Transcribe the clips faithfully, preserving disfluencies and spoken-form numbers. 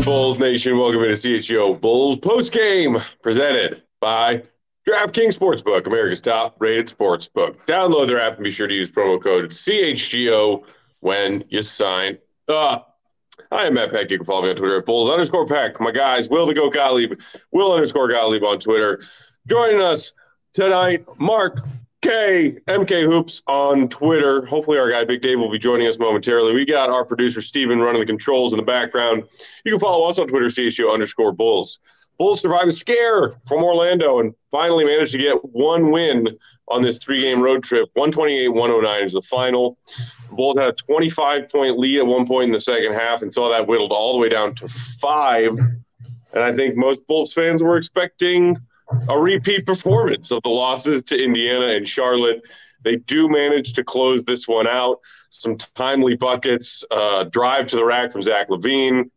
Bulls Nation? Welcome to C H G O Bulls Post Game, presented by DraftKings Sportsbook, America's top-rated sportsbook. Download their app and be sure to use promo code C H G O when you sign up. I am Matt Peck. You can follow me on Twitter at Bulls underscore Peck. My guys, Will the Go Gottlieb, Will underscore Gottlieb on Twitter. Joining us tonight, Mark K, M K Hoops on Twitter. Hopefully our guy Big Dave will be joining us momentarily. We got our producer Steven running the controls in the background. You can follow us on Twitter, C H G O underscore Bulls. Bulls survived a scare from Orlando and finally managed to get one win on this three-game road trip. one twenty-eight one oh nine is the final. The Bulls had a twenty-five point lead at one point in the second half and saw that whittled all the way down to five. And I think most Bulls fans were expecting a repeat performance of the losses to Indiana and Charlotte. They do manage to close this one out. Some timely buckets, uh, drive to the rack from Zach LaVine,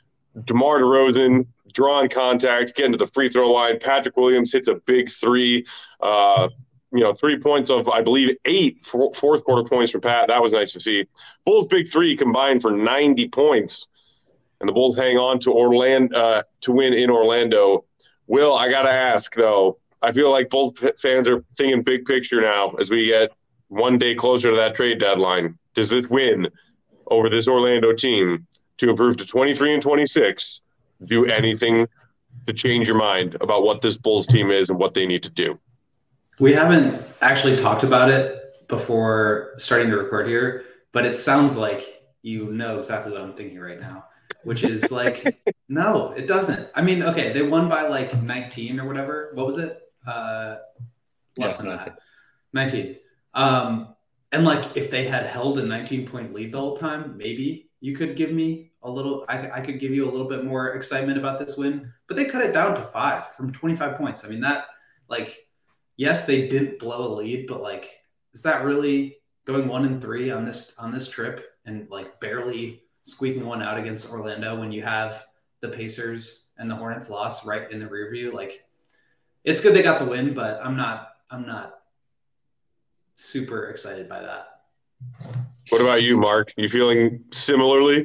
DeMar DeRozan, drawing contacts, getting to the free throw line. Patrick Williams hits a big three. Uh, you know, three points of, I believe, eight four, fourth quarter points for Pat. That was nice to see. Bulls' big three combined for ninety points, and the Bulls hang on to Orlando uh, to win in Orlando. Will, I got to ask, though, I feel like Bulls fans are thinking big picture now as we get one day closer to that trade deadline. Does this win over this Orlando team to improve to twenty-three and twenty-six do anything to change your mind about what this Bulls team is and what they need to do? We haven't actually talked about it before starting to record here, but it sounds like you know exactly what I'm thinking right now, which is like, no, it doesn't. I mean, okay, they won by like nineteen or whatever. What was it? Uh, less yeah, than that. nineteen. Um, and like, if they had held a nineteen point lead the whole time, maybe you could give me a little, I, I could give you a little bit more excitement about this win, but they cut it down to five from twenty-five points. I mean, that, like, yes, they didn't blow a lead, but like, is that really going one and three on this, on this trip and like barely squeaking one out against Orlando when you have the Pacers and the Hornets loss right in the rear view? Like, it's good they got the win, but I'm not, I'm not super excited by that. What about you, Mark? You feeling similarly?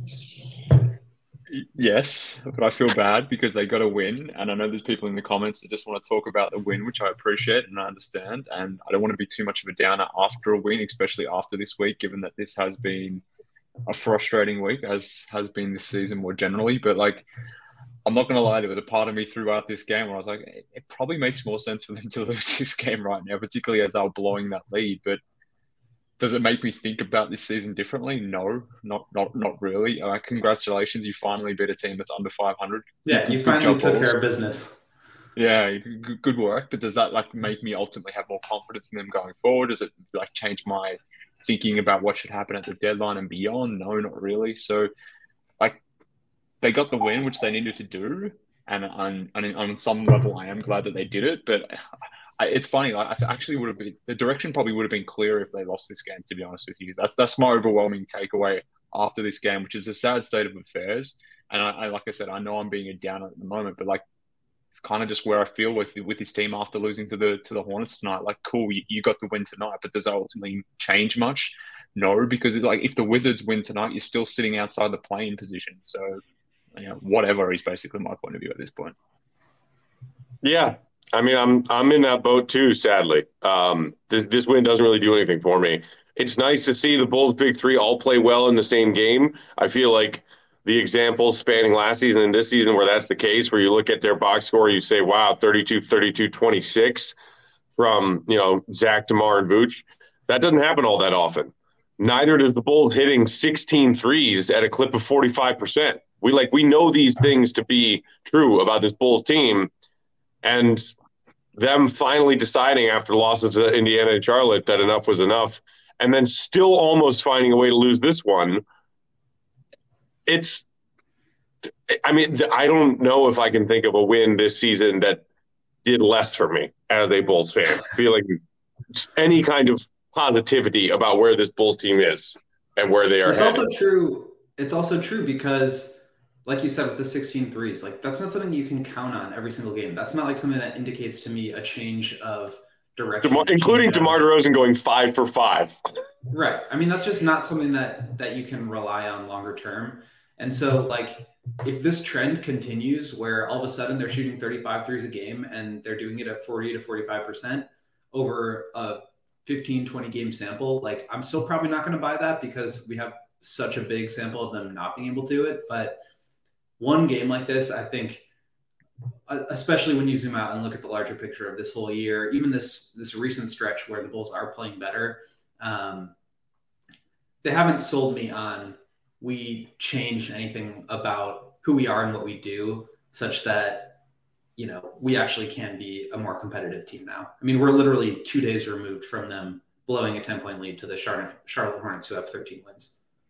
Yes, but I feel bad because they got a win. And I know there's people in the comments that just want to talk about the win, which I appreciate and I understand. And I don't want to be too much of a downer after a win, especially after this week, given that this has been a frustrating week, as has been this season more generally. But like, I'm not going to lie, there was a part of me throughout this game where I was like, it, it probably makes more sense for them to lose this game right now, particularly as they were blowing that lead. But does it make me think about this season differently? No, not not not really. Uh, congratulations, you finally beat a team that's under five hundred. Yeah, you good finally took care of business. Yeah, good, good work. But does that like make me ultimately have more confidence in them going forward? Does it like change my thinking about what should happen at the deadline and beyond? No, not really. So, like, they got the win, which they needed to do, and on on, on some level, I am glad that they did it. But I, it's funny. Like, I actually would have been the direction probably would have been clearer if they lost this game. To be honest with you, that's that's my overwhelming takeaway after this game, which is a sad state of affairs. And I, I like I said, I know I'm being a downer at the moment, but like, it's kind of just where I feel with with this team after losing to the to the Hornets tonight. Like, cool, you, you got the win tonight, but does that ultimately change much? No, because like if the Wizards win tonight, you're still sitting outside the play-in position. So, you know, whatever is basically my point of view at this point. Yeah, I mean, I'm I'm in that boat too. Sadly, um, this this win doesn't really do anything for me. It's nice to see the Bulls' big three all play well in the same game. I feel like the examples spanning last season and this season where that's the case, where you look at their box score, you say, wow, thirty-two, thirty-two, twenty-six from, you know, Zach, DeMar, and Vooch. That doesn't happen all that often. Neither does the Bulls hitting sixteen threes at a clip of forty-five percent. We like we know these things to be true about this Bulls team, and them finally deciding after losses to Indiana and Charlotte that enough was enough, and then still almost finding a way to lose this one. It's, I mean, I don't know if I can think of a win this season that did less for me as a Bulls fan. Feeling any kind of positivity about where this Bulls team is and where they are It's headed. also true. It's also true because, like you said, with the sixteen threes, like that's not something you can count on every single game. That's not like something that indicates to me a change of direction. DeMar, including DeMar DeRozan going five for five. Right. I mean, that's just not something that that you can rely on longer term. And so, like, if this trend continues where all of a sudden they're shooting thirty-five threes a game and they're doing it at forty to forty-five percent over a fifteen, twenty game sample, like, I'm still probably not going to buy that because we have such a big sample of them not being able to do it. But one game like this, I think, especially when you zoom out and look at the larger picture of this whole year, even this this recent stretch where the Bulls are playing better, um, they haven't sold me on we changed anything about who we are and what we do such that, you know, we actually can be a more competitive team now. I mean, we're literally two days removed from them blowing a ten point lead to the Charlotte, Charlotte Hornets, who have thirteen wins.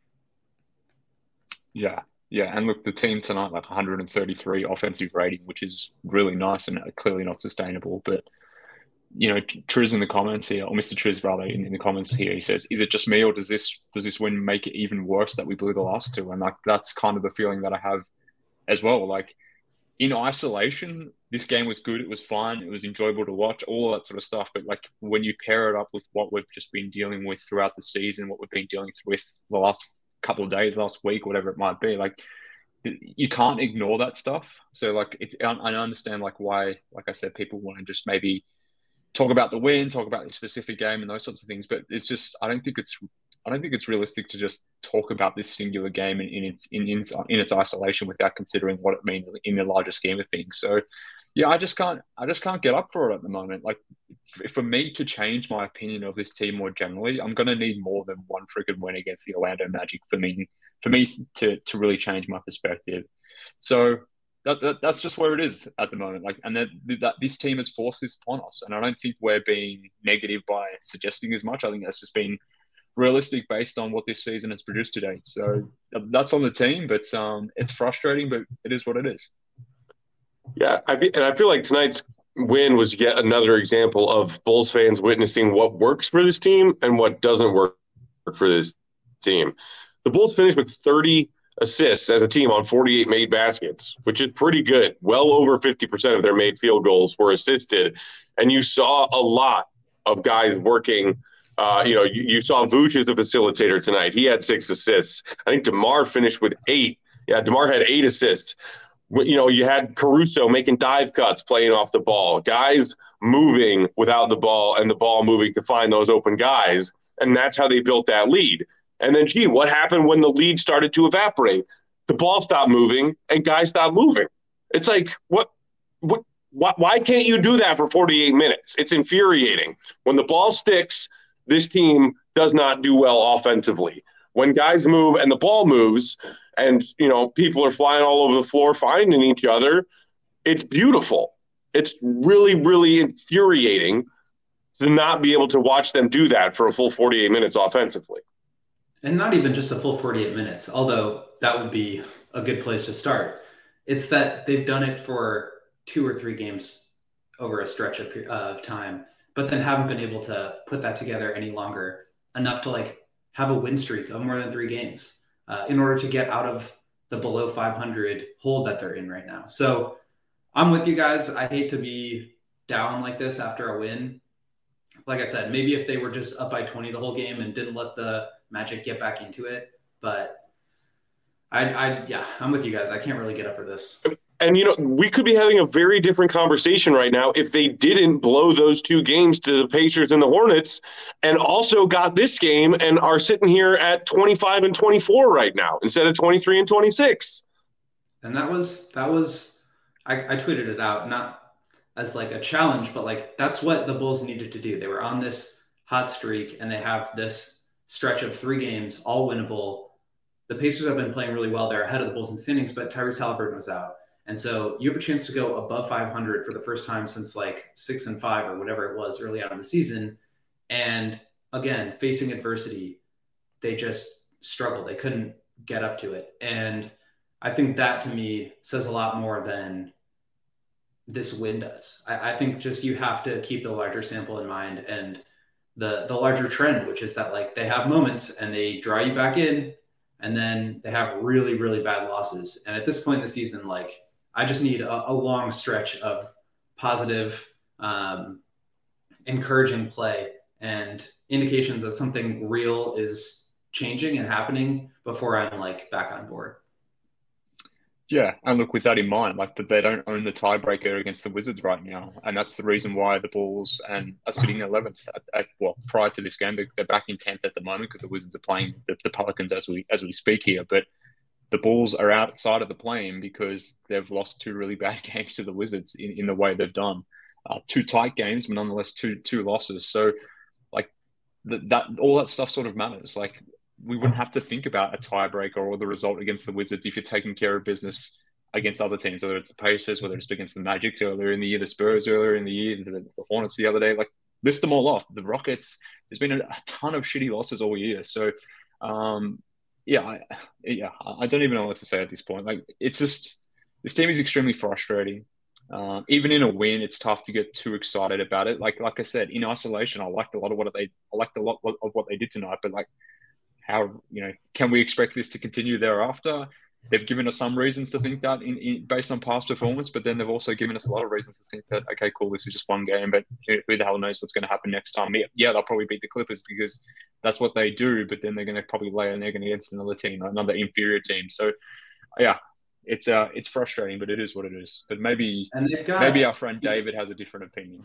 Yeah. Yeah. And look, the team tonight, like one hundred thirty-three offensive rating, which is really nice and clearly not sustainable. But, you know, Triz in the comments here, or Mister Triz rather, in, in the comments here, he says, is it just me or does this does this win make it even worse that we blew the last two? And like that's kind of the feeling that I have as well. Like in isolation, this game was good. It was fun. It was enjoyable to watch, all of that sort of stuff. But like when you pair it up with what we've just been dealing with throughout the season, what we've been dealing with the last couple of days, last week, whatever it might be, like you can't ignore that stuff. So like it's, I understand like why, like I said, people want to just maybe talk about the win, talk about the specific game and those sorts of things. But it's just, I don't think it's, I don't think it's realistic to just talk about this singular game in, in its in, in in its isolation without considering what it means in the larger scheme of things. So, yeah, I just can't, I just can't get up for it at the moment. Like, for me to change my opinion of this team more generally, I'm going to need more than one freaking win against the Orlando Magic for me, for me to to really change my perspective. So. That, that, that's just where it is at the moment. Like, and that, that this team has forced this upon us, and I don't think we're being negative by suggesting as much. I think that's just been realistic based on what this season has produced to date. So that's on the team, but um, it's frustrating, but it is what it is. Yeah, I feel, and I feel like tonight's win was yet another example of Bulls fans witnessing what works for this team and what doesn't work for this team. The Bulls finished with thirty assists as a team on forty-eight made baskets, which is pretty good. Well over fifty percent of their made field goals were assisted. And you saw a lot of guys working. Uh, you know, you, you saw Vooch as a facilitator tonight. He had six assists. I think DeMar finished with eight. Yeah, DeMar had eight assists. You know, you had Caruso making dive cuts, playing off the ball. Guys moving without the ball and the ball moving to find those open guys. And that's how they built that lead. And then, gee, what happened when the lead started to evaporate? The ball stopped moving and guys stopped moving. It's like, what, what, why, why can't you do that for forty-eight minutes? It's infuriating. When the ball sticks, this team does not do well offensively. When guys move and the ball moves and, you know, people are flying all over the floor finding each other, it's beautiful. It's really, really infuriating to not be able to watch them do that for a full forty-eight minutes offensively. And not even just a full forty-eight minutes, although that would be a good place to start. It's that they've done it for two or three games over a stretch of, of time, but then haven't been able to put that together any longer enough to like have a win streak of more than three games uh, in order to get out of the below five hundred hole that they're in right now. So I'm with you guys. I hate to be down like this after a win. Like I said, maybe if they were just up by twenty the whole game and didn't let the Magic get back into it, but I, I, yeah, I'm with you guys. I can't really get up for this. And, you know, we could be having a very different conversation right now if they didn't blow those two games to the Pacers and the Hornets and also got this game and are sitting here at twenty-five and twenty-four right now instead of twenty-three and twenty-six. And that was, that was, I, I tweeted it out, not as like a challenge, but like, that's what the Bulls needed to do. They were on this hot streak and they have this stretch of three games, all winnable. The Pacers have been playing really well. They're ahead of the Bulls in standings, but Tyrese Haliburton was out. And so you have a chance to go above five hundred for the first time since like six and five or whatever it was early on in the season. And again, facing adversity, they just struggled. They couldn't get up to it. And I think that to me says a lot more than this win does. I, I think just you have to keep the larger sample in mind and the the larger trend, which is that like they have moments and they draw you back in and then they have really, really bad losses. And at this point in the season, like I just need a, a long stretch of positive, um, encouraging play and indications that something real is changing and happening before I'm like back on board. Yeah, and look, with that in mind, like that they don't own the tiebreaker against the Wizards right now, and that's the reason why the Bulls and are sitting eleventh. At, at, well, prior to this game, they're back in tenth at the moment because the Wizards are playing the, the Pelicans as we as we speak here. But the Bulls are outside of the play-in because they've lost two really bad games to the Wizards in, in the way they've done. Uh, two tight games, but nonetheless two two losses. So, like that, that all that stuff sort of matters. Like, we wouldn't have to think about a tiebreaker or the result against the Wizards if you're taking care of business against other teams, whether it's the Pacers, whether it's against the Magic earlier in the year, the Spurs earlier in the year, the, the Hornets the other day. Like, list them all off. The Rockets, there's been a, a ton of shitty losses all year. So, um, yeah, I, yeah, I don't even know what to say at this point. Like, it's just, this team is extremely frustrating. Um, even in a win, it's tough to get too excited about it. Like, like I said, in isolation, I liked a lot of what they, I liked a lot of what they did tonight. But like, how, you know, can we expect this to continue thereafter? They've given us some reasons to think that in, in based on past performance, but then they've also given us a lot of reasons to think that, okay, cool, this is just one game, but who, who the hell knows what's going to happen next time? Yeah, they'll probably beat the Clippers because that's what they do, but then they're going to probably lay an egg against another team, another inferior team. So, yeah, it's uh, it's frustrating, but it is what it is. But maybe got... maybe our friend David has a different opinion.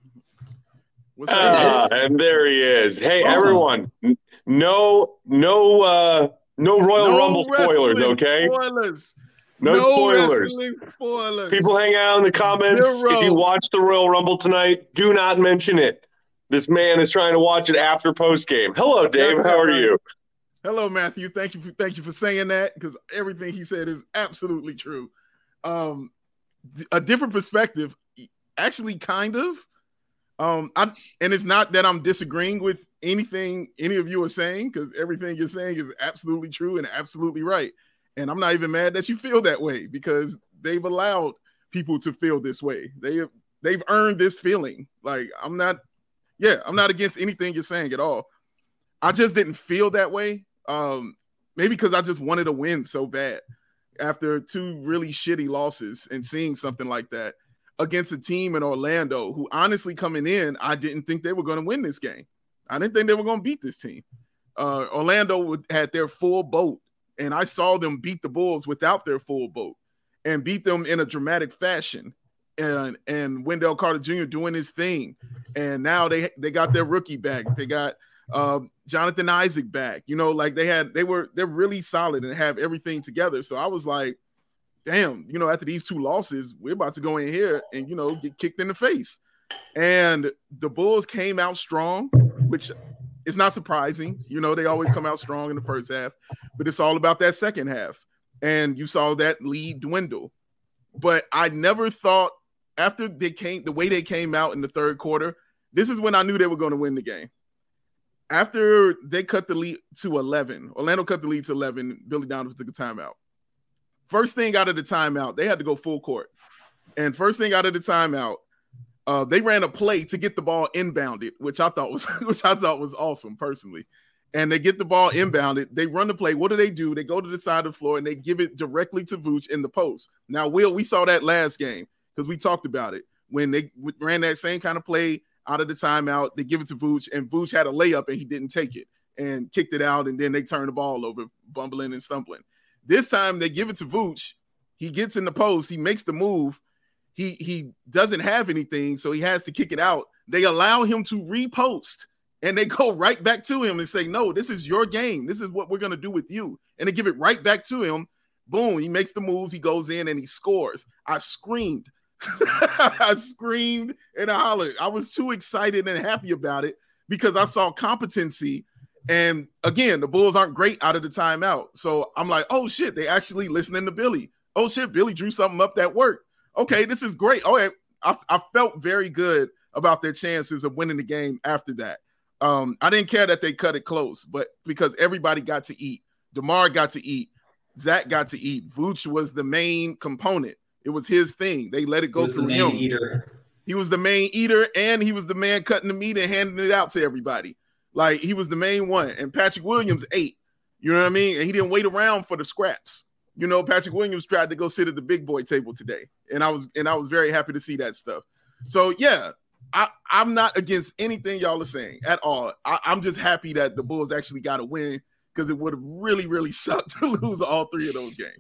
What's ah, and there he is. Hey, oh. everyone, no, no, uh, no Royal no Rumble spoilers, okay? Spoilers. No, no spoilers. spoilers. People hang out in the comments. Zero. If you watch the Royal Rumble tonight, do not mention it. This man is trying to watch it after post game. Hello, Dave. How are you? Hello, Matthew. Thank you for thank you for saying that, because everything he said is absolutely true. Um, a different perspective, actually, kind of. Um, I, and it's not that I'm disagreeing with anything any of you are saying, because everything you're saying is absolutely true and absolutely right. And I'm not even mad that you feel that way, because they've allowed people to feel this way. They have, they've earned this feeling. Like, I'm not, yeah, I'm not against anything you're saying at all. I just didn't feel that way. Um, maybe because I just wanted to win so bad after two really shitty losses, and seeing something like that against a team in Orlando who, honestly, coming in, I didn't think they were going to win this game. I didn't think they were going to beat this team. Uh, Orlando would, had their full boat, and I saw them beat the Bulls without their full boat and beat them in a dramatic fashion. And and Wendell Carter Junior doing his thing. And now they they got their rookie back. They got uh, Jonathan Isaac back. You know, like they had, they were, they're really solid and have everything together. So I was like, damn, you know, after these two losses, we're about to go in here and, you know, get kicked in the face. And the Bulls came out strong, which is not surprising. You know, they always come out strong in the first half, but it's all about that second half. And you saw that lead dwindle. But I never thought, after they came, the way they came out in the third quarter, this is when I knew they were going to win the game. After they cut the lead to eleven, Orlando cut the lead to eleven, Billy Donovan took a timeout. First thing out of the timeout, they had to go full court. And first thing out of the timeout, uh, they ran a play to get the ball inbounded, which I thought was which I thought was awesome personally. And they get the ball inbounded. They run the play. What do they do? They go to the side of the floor and they give it directly to Vooch in the post. Now, Will, we saw that last game because we talked about it. When they ran that same kind of play out of the timeout, they give it to Vooch, and Vooch had a layup and he didn't take it and kicked it out, and then they turned the ball over, bumbling and stumbling. This time they give it to Vooch. He gets in the post. He makes the move. He he doesn't have anything, so he has to kick it out. They allow him to repost, and they go right back to him and say, no, this is your game. This is what we're going to do with you. And they give it right back to him. Boom, he makes the moves. He goes in and he scores. I screamed. I screamed and I hollered. I was too excited and happy about it because I saw competency. And again, the Bulls aren't great out of the timeout. So I'm like, oh shit, they actually listening to Billy. Oh shit, Billy drew something up that worked. Okay, this is great. Oh, I, I felt very good about their chances of winning the game after that. Um, I didn't care that they cut it close, but because everybody got to eat. DeMar got to eat. Zach got to eat. Vooch was the main component. It was his thing. They let it go through him. Eater. He was the main eater, and he was the man cutting the meat and handing it out to everybody. Like, he was the main one. And Patrick Williams ate. You know what I mean? And he didn't wait around for the scraps. You know, Patrick Williams tried to go sit at the big boy table today. And I was and I was very happy to see that stuff. So, yeah, I, I'm not against anything y'all are saying at all. I, I'm just happy that the Bulls actually got a win, because it would have really, really sucked to lose all three of those games.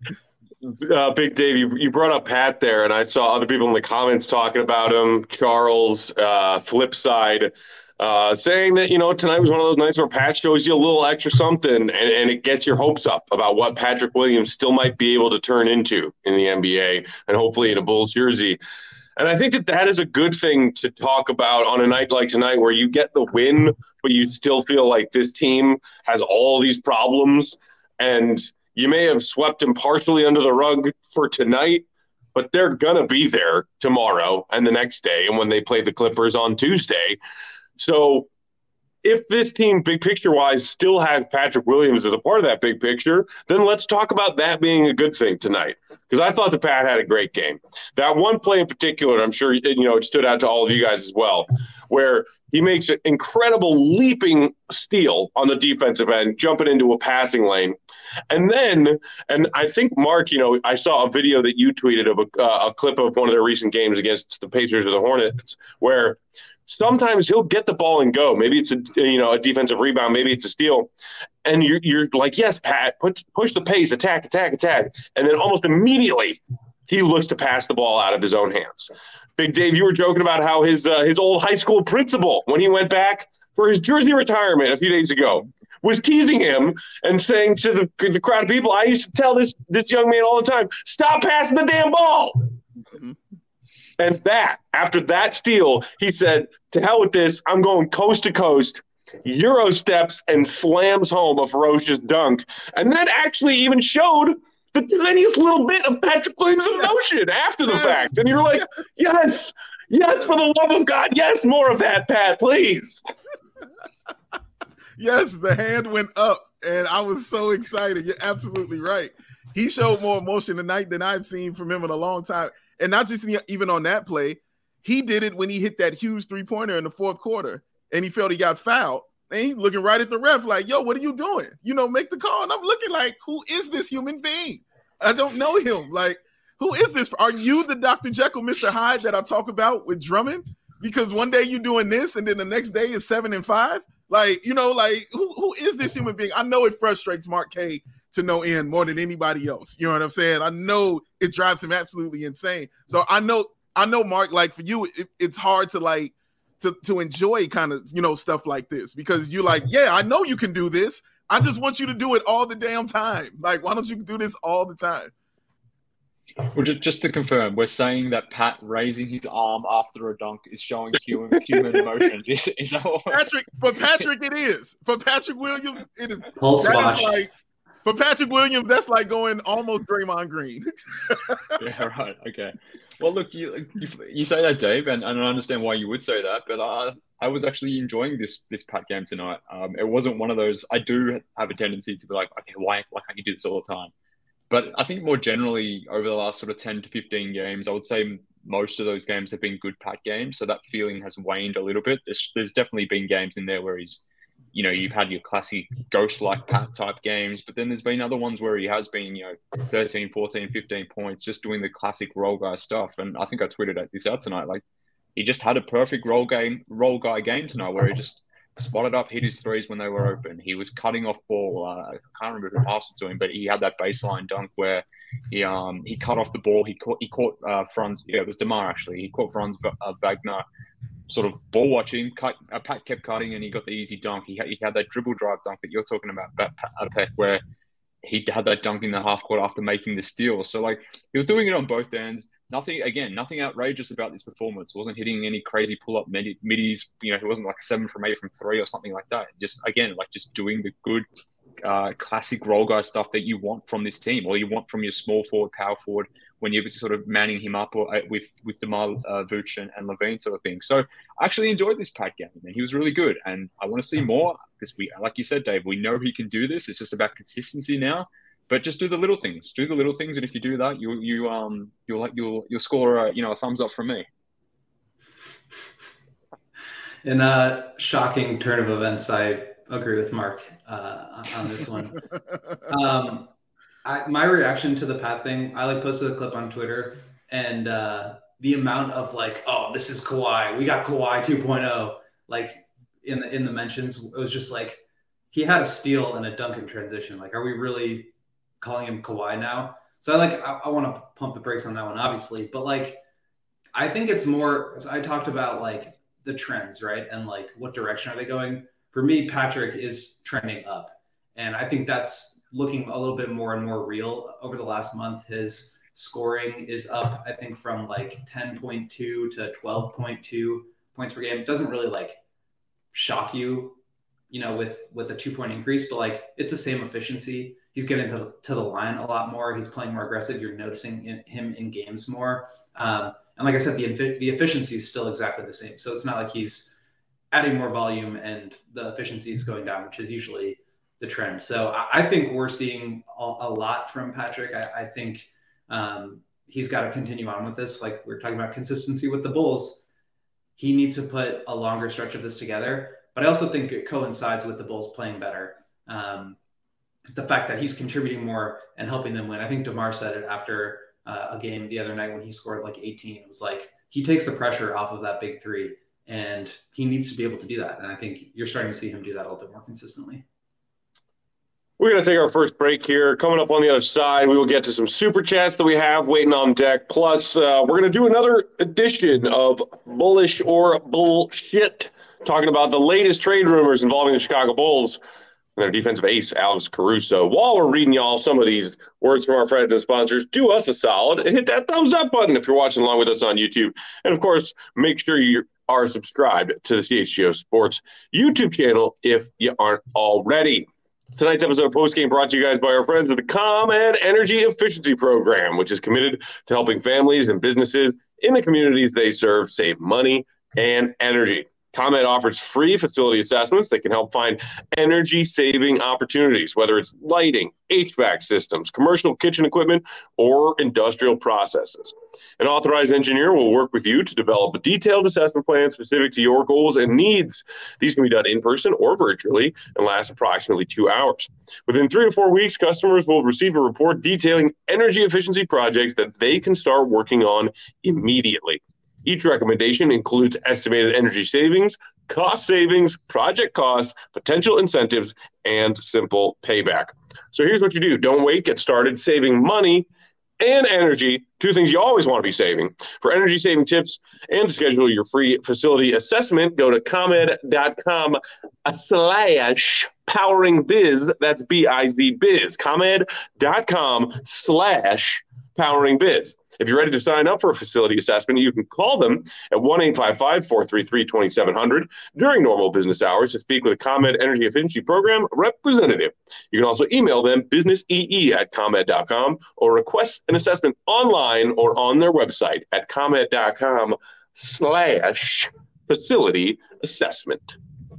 Uh, Big Dave, you, you brought up Pat there, and I saw other people in the comments talking about him. Charles, uh, flip side, uh, saying that, you know, tonight was one of those nights where Pat shows you a little extra something, and, and it gets your hopes up about what Patrick Williams still might be able to turn into in the N B A, and hopefully in a Bulls jersey. And I think that that is a good thing to talk about on a night like tonight where you get the win, but you still feel like this team has all these problems, and you may have swept them partially under the rug for tonight, but they're going to be there tomorrow and the next day and when they play the Clippers on Tuesday. So if this team, big picture-wise, still has Patrick Williams as a part of that big picture, then let's talk about that being a good thing tonight. Because I thought the Pat had a great game. That one play in particular, I'm sure you know it stood out to all of you guys as well, where he makes an incredible leaping steal on the defensive end, jumping into a passing lane. And then, and I think, Mark, you know, I saw a video that you tweeted of a, uh, a clip of one of their recent games against the Pacers or the Hornets, where sometimes he'll get the ball and go. Maybe it's a you know a defensive rebound, maybe it's a steal, and you're you're like, yes, Pat, push push the pace, attack, attack, attack, and then almost immediately he looks to pass the ball out of his own hands. Big Dave, you were joking about how his uh, his old high school principal, when he went back for his jersey retirement a few days ago, was teasing him and saying to the the crowd of people, I used to tell this this young man all the time, stop passing the damn ball. Mm-hmm. And that, after that steal, he said, to hell with this, I'm going coast to coast, Euro steps, and slams home a ferocious dunk. And that actually even showed the tiniest little bit of Patrick Williams' emotion after the fact. And you're like, yes, yes, for the love of God, yes, more of that, Pat, please. Yes, the hand went up, and I was so excited. You're absolutely right. He showed more emotion tonight than I've seen from him in a long time. And not just even on that play, he did it when he hit that huge three-pointer in the fourth quarter, and he felt he got fouled. And he's looking right at the ref like, yo, what are you doing? You know, make the call. And I'm looking like, who is this human being? I don't know him. Like, who is this? Are you the Doctor Jekyll, Mister Hyde that I talk about with Drummond? Because one day you're doing this, and then the next day is seven and five. Like, you know, like, who, who is this human being? I know it frustrates Mark K to no end more than anybody else. You know what I'm saying? I know it drives him absolutely insane. So I know, I know, Mark, like for you, it, it's hard to like, to, to enjoy kind of, you know, stuff like this because you're like, yeah, I know you can do this. I just want you to do it all the damn time. Like, why don't you do this all the time? Well, just, just to confirm, we're saying that Pat raising his arm after a dunk is showing human, human emotions. Is, is that what Patrick, for Patrick, it is. For Patrick Williams, it is. Pulse that watch. Is like, for Patrick Williams, that's like going almost Draymond Green. Yeah, right. Okay. Well, look, you you, you say that, Dave, and, and I understand why you would say that, but I I was actually enjoying this this Pat game tonight. Um, it wasn't one of those. I do have a tendency to be like, okay, why why can't you do this all the time? But I think more generally over the last sort of ten to fifteen games, I would say most of those games have been good Pat games. So that feeling has waned a little bit. There's, there's definitely been games in there where he's, you know, you've had your classic ghost-like Pat type games, but then there's been other ones where he has been, you know, thirteen, fourteen, fifteen points, just doing the classic role guy stuff. And I think I tweeted at this out tonight. Like, he just had a perfect role game, role guy game tonight where he just spotted up, hit his threes when they were open. He was cutting off ball. Uh, I can't remember who passed it to him, but he had that baseline dunk where he um he cut off the ball. He caught he caught uh, Franz. Yeah, it was DeMar actually. He caught Franz uh, Wagner, sort of ball watching. Cut, uh, Pat kept cutting, and he got the easy dunk. He had, he had that dribble drive dunk that you're talking about, uh, Peck, where he had that dunk in the half court after making the steal. So like he was doing it on both ends. Nothing, again, nothing outrageous about this performance. Wasn't hitting any crazy pull-up mid- middies. You know, he wasn't like seven from eight from three or something like that. Just, again, like just doing the good uh, classic role guy stuff that you want from this team, or you want from your small forward, power forward, when you're sort of manning him up or, uh, with with DeMar uh, Vooch and, and Levine sort of thing. So I actually enjoyed this Pat game, and he was really good. And I want to see more because we, like you said, Dave, we know he can do this. It's just about consistency now. But just do the little things. Do the little things, and if you do that, you you um you'll you'll you'll score a, you know a thumbs up from me. In a shocking turn of events, I agree with Mark uh, on this one. um, I, my reaction to the Pat thing, I like posted a clip on Twitter, and uh, the amount of like, oh, this is Kawhi. We got Kawhi two point oh. Like in the in the mentions, it was just like he had a steal and a dunk in transition. Like, are we really calling him Kawhi now? So I like I, I want to pump the brakes on that one, obviously, but like I think it's more. I talked about like the trends, right, and like what direction are they going? For me, Patrick is trending up, and I think that's looking a little bit more and more real over the last month. His scoring is up, I think, from like ten point two to twelve point two points per game. It doesn't really like shock you, you know, with with a two point increase, but like it's the same efficiency. He's getting to, to the line a lot more. He's playing more aggressive. You're noticing in, him in games more. Um, and like I said, the the efficiency is still exactly the same. So it's not like he's adding more volume and the efficiency is going down, which is usually the trend. So I, I think we're seeing a, a lot from Patrick. I, I think um, he's got to continue on with this. Like we're talking about consistency with the Bulls. He needs to put a longer stretch of this together. But I also think it coincides with the Bulls playing better. Um, the fact that he's contributing more and helping them win. I think DeMar said it after uh, a game the other night when he scored like eighteen. It was like he takes the pressure off of that big three, and he needs to be able to do that. And I think you're starting to see him do that a little bit more consistently. We're going to take our first break here. Coming up on the other side, we will get to some super chats that we have waiting on deck. Plus, uh, we're going to do another edition of Bullish or Bullshit, talking about the latest trade rumors involving the Chicago Bulls and their defensive ace, Alex Caruso. While we're reading y'all some of these words from our friends and sponsors, do us a solid and hit that thumbs up button if you're watching along with us on YouTube. And, of course, make sure you are subscribed to the C H G O Sports YouTube channel if you aren't already. Tonight's episode of Postgame brought to you guys by our friends at the ComEd Energy Efficiency Program, which is committed to helping families and businesses in the communities they serve save money and energy. ComEd offers free facility assessments that can help find energy-saving opportunities, whether it's lighting, H V A C systems, commercial kitchen equipment, or industrial processes. An authorized engineer will work with you to develop a detailed assessment plan specific to your goals and needs. These can be done in person or virtually and last approximately two hours. Within three to four weeks, customers will receive a report detailing energy efficiency projects that they can start working on immediately. Each recommendation includes estimated energy savings, cost savings, project costs, potential incentives, and simple payback. So here's what you do. Don't wait. Get started saving money and energy, two things you always want to be saving. For energy saving tips and to schedule your free facility assessment, go to ComEd.com slash powering biz. That's B I Z biz. ComEd.com slash powering biz. If you're ready to sign up for a facility assessment, you can call them at one eight five five, four three three, two seven zero zero during normal business hours to speak with a ComEd Energy Efficiency Program representative. You can also email them businessee at ComEd dot com or request an assessment online or on their website at ComEd.com slash facility assessment.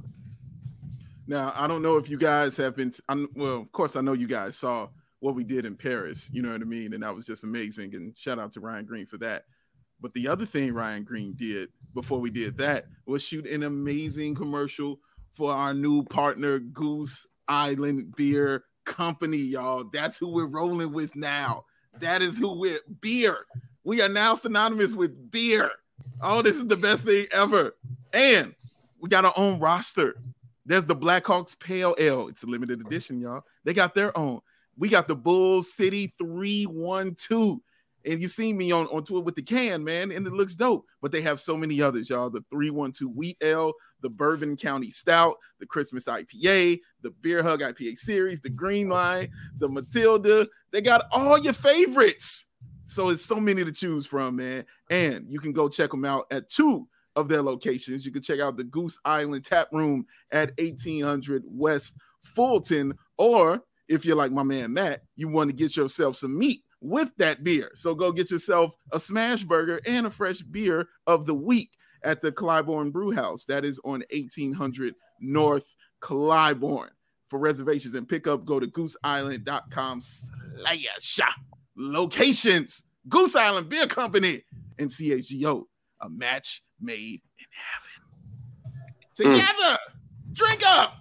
Now, I don't know if you guys have been, I'm, well, of course, I know you guys saw what we did in Paris, you know what I mean? And that was just amazing. And shout out to Ryan Green for that. But the other thing Ryan Green did before we did that was shoot an amazing commercial for our new partner, Goose Island Beer Company, y'all. That's who we're rolling with now. That is who we're beer. We are now synonymous with beer. Oh, this is the best thing ever. And we got our own roster. There's the Blackhawks Pale Ale. It's a limited edition, y'all. They got their own. We got the Bulls City three one two. And you've seen me on, on tour with the can, man, and it looks dope. But they have so many others, y'all. The three one two Wheat Ale, the Bourbon County Stout, the Christmas I P A, the Beer Hug I P A Series, the Green Line, the Matilda. They got all your favorites. So it's so many to choose from, man. And you can go check them out at two of their locations. You can check out the Goose Island Tap Room at eighteen hundred West Fulton, or if you're like my man Matt, you want to get yourself some meat with that beer. So go get yourself a smash burger and a fresh beer of the week at the Clybourne Brew House. That is on eighteen hundred North Clybourne. For reservations and pickup, go to goose island dot com slash locations. Goose Island Beer Company and C H G O, a match made in heaven. Together, mm. Drink up.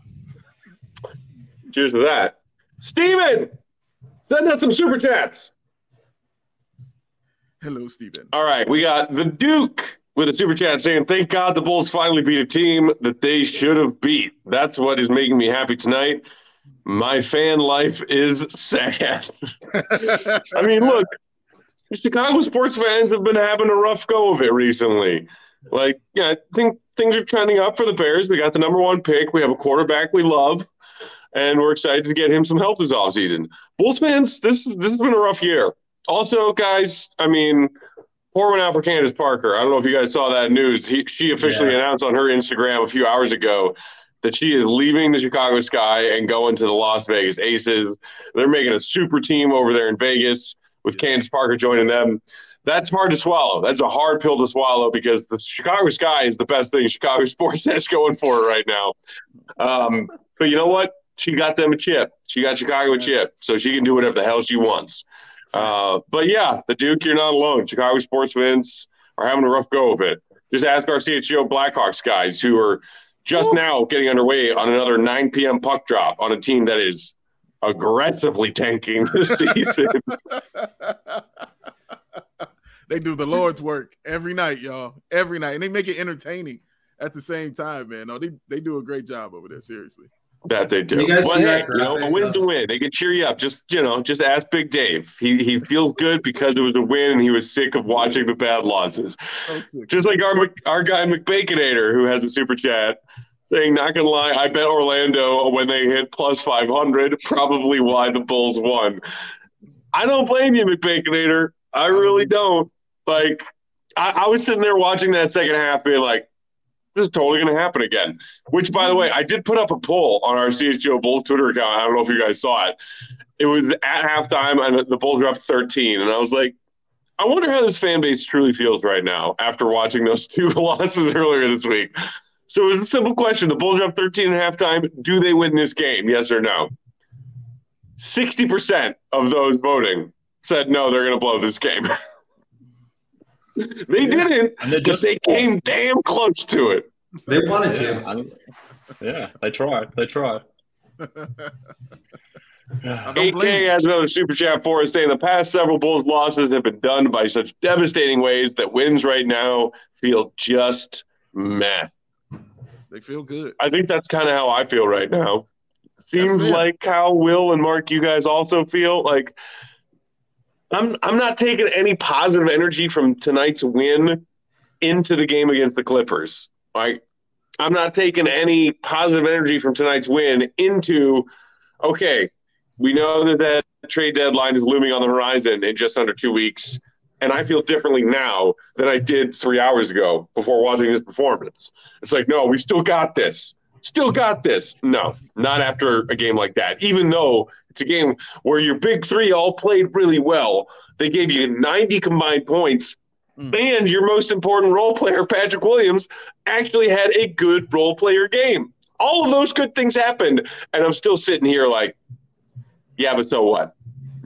Cheers to that. Steven, send us some super chats. Hello, Steven. All right, we got the Duke with a super chat saying, thank God the Bulls finally beat a team that they should have beat. That's what is making me happy tonight. my fan life is sad. I mean, look, Chicago sports fans have been having a rough go of it recently. Like, yeah, I think things are trending up for the Bears. We got the number one pick. We have a quarterback we love, and we're excited to get him some help this offseason. Bulls fans, this this has been a rough year. Also, guys, I mean, pour one out for Candace Parker. I don't know if you guys saw that news. He, she officially yeah. announced on her Instagram a few hours ago that she is leaving the Chicago Sky and going to the Las Vegas Aces. They're making a super team over there in Vegas with Candace Parker joining them. That's hard to swallow. That's a hard pill to swallow because the Chicago Sky is the best thing Chicago sports has going for it right now. Um, but you know what? She got them a chip. She got Chicago a chip, so she can do whatever the hell she wants. Uh, but yeah, the Duke, you're not alone. Chicago sports fans are having a rough go of it. Just ask our C H G O Blackhawks guys who are just Ooh. now getting underway on another nine p.m. puck drop on a team that is aggressively tanking this season. They do the Lord's work every night, y'all. Every night. And they make it entertaining at the same time, man. No, they, they do a great job over there, seriously. That they do. You guys well, see hey, that you know, a win's a win. They can cheer you up. Just, you know, just ask Big Dave. He he feels good because it was a win and he was sick of watching the bad losses. Just like our our guy McBaconator, who has a super chat saying, not gonna lie, I bet Orlando when they hit plus five hundred, probably why the Bulls won. I don't blame you, McBaconator. I really don't. Like, I, I was sitting there watching that second half being like, this is totally going to happen again. Which, by the way, I did put up a poll on our C H G O Bulls Twitter account. I don't know if you guys saw it. It was at halftime, and the Bulls were up thirteen. And I was like, I wonder how this fan base truly feels right now after watching those two losses earlier this week. So it was a simple question. The Bulls are up thirteen at halftime. Do they win this game? Yes or no? sixty percent of those voting said no, they're going to blow this game. They didn't, but they came damn close to it. They wanted yeah, to. I, yeah, they tried. They tried. eight K has another super chat for us saying the past several Bulls losses have been done by such devastating ways that wins right now feel just meh. They feel good. I think that's kind of how I feel right now. Seems like how Will and Mark, you guys also feel like. I'm I'm not taking any positive energy from tonight's win into the game against the Clippers. Like, I'm not taking any positive energy from tonight's win into, okay, we know that that trade deadline is looming on the horizon in just under two weeks, and I feel differently now than I did three hours ago before watching this performance. It's like, no, we still got this. Still got this. No, not after a game like that. Even though it's a game where your big three all played really well. They gave you ninety combined points, mm. and your most important role player, Patrick Williams, actually had a good role player game. All of those good things happened, and I'm still sitting here like, yeah, but so what?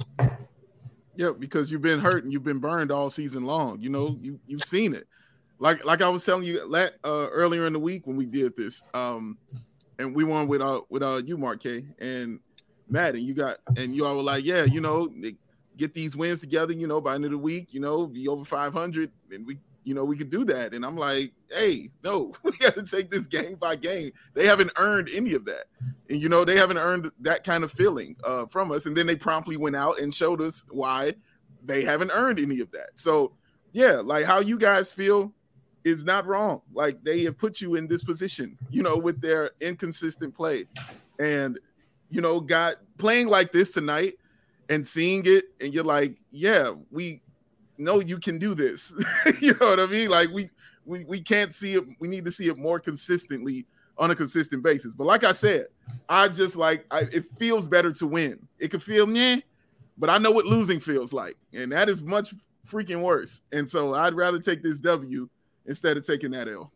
Yeah, because you've been hurt and you've been burned all season long. You know, you, you've seen it. Like like I was telling you uh, earlier in the week when we did this, um, and we won with uh with uh you, Mark K, and Matt, and you got and you all were like, yeah, you know, get these wins together, you know, by the end of the week, you know, be over five hundred, and we, you know, we could do that. And I'm like, hey, no, we got to take this game by game. They haven't earned any of that, and you know, they haven't earned that kind of feeling uh, from us. And then they promptly went out and showed us why they haven't earned any of that. So yeah, like how you guys feel is not wrong. Like they have put you in this position, you know, with their inconsistent play, and you know, got playing like this tonight and seeing it, and you're like, yeah, we know you can do this. You know what I mean? Like we we we can't see it. We need to see it more consistently on a consistent basis. But like I said, I just like I, it feels better to win. It could feel meh, but I know what losing feels like, and that is much freaking worse. And so I'd rather take this W instead of taking that L.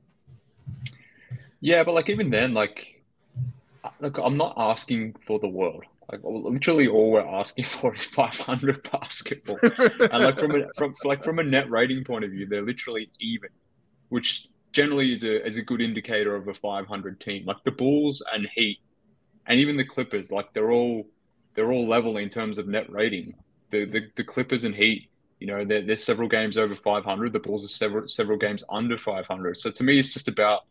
Yeah, but like even then, like, look, I'm not asking for the world. Like literally, all we're asking for is five hundred basketball, and like from a from like from a net rating point of view, they're literally even, which generally is a is a good indicator of a five hundred team. Like the Bulls and Heat, and even the Clippers, like they're all they're all level in terms of net rating. The the, the Clippers and Heat, you know, they're, they're several games over five hundred. The Bulls are several several games under five hundred. So to me, it's just about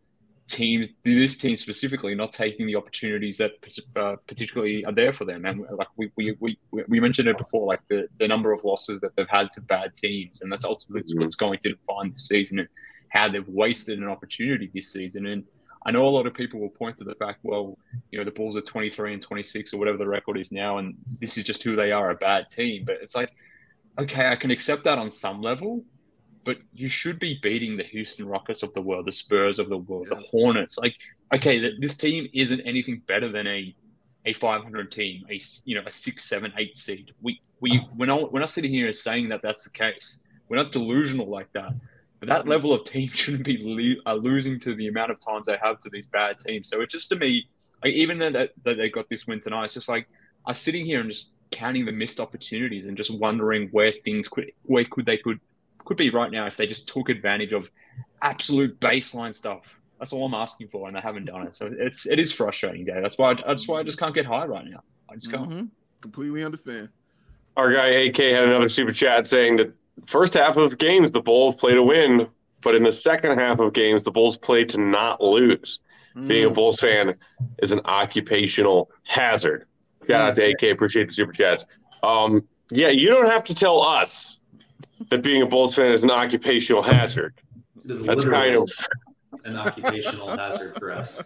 teams, this team specifically, not taking the opportunities that uh, particularly are there for them. And like we we we, we mentioned it before, like the, the number of losses that they've had to bad teams, and that's ultimately mm-hmm. what's going to define the season and how they've wasted an opportunity this season. And I know a lot of people will point to the fact, well, you know, the Bulls are twenty-three and twenty-six or whatever the record is now, and this is just who they are, a bad team. But it's like, okay, I can accept that on some level, but you should be beating the Houston Rockets of the world, the Spurs of the world, yes. the Hornets. Like, okay, this team isn't anything better than a a five hundred team, a you know a six, seven, eight seed. We we we're not we're not sitting here saying that that's the case. We're not delusional like that. But that level of team shouldn't be le- uh, losing to the amount of times they have to these bad teams. So it's just, to me, like, even that that they got this win tonight, it's just like I'm sitting here and just counting the missed opportunities and just wondering where things could where could they could. could be right now if they just took advantage of absolute baseline stuff. That's all I'm asking for, and they haven't done it. So it's it is frustrating, Dave. That's why I, that's why I just can't get high right now. I just can't. Mm-hmm. Completely understand. Our guy A K had another super chat saying that first half of games the Bulls play to win, but in the second half of games the Bulls play to not lose. Mm. Being a Bulls fan is an occupational hazard. Shout mm. out to A K. Appreciate the super chats. Um, yeah, you don't have to tell us that being a Bulls fan is an occupational hazard. That's kind of an occupational hazard for us.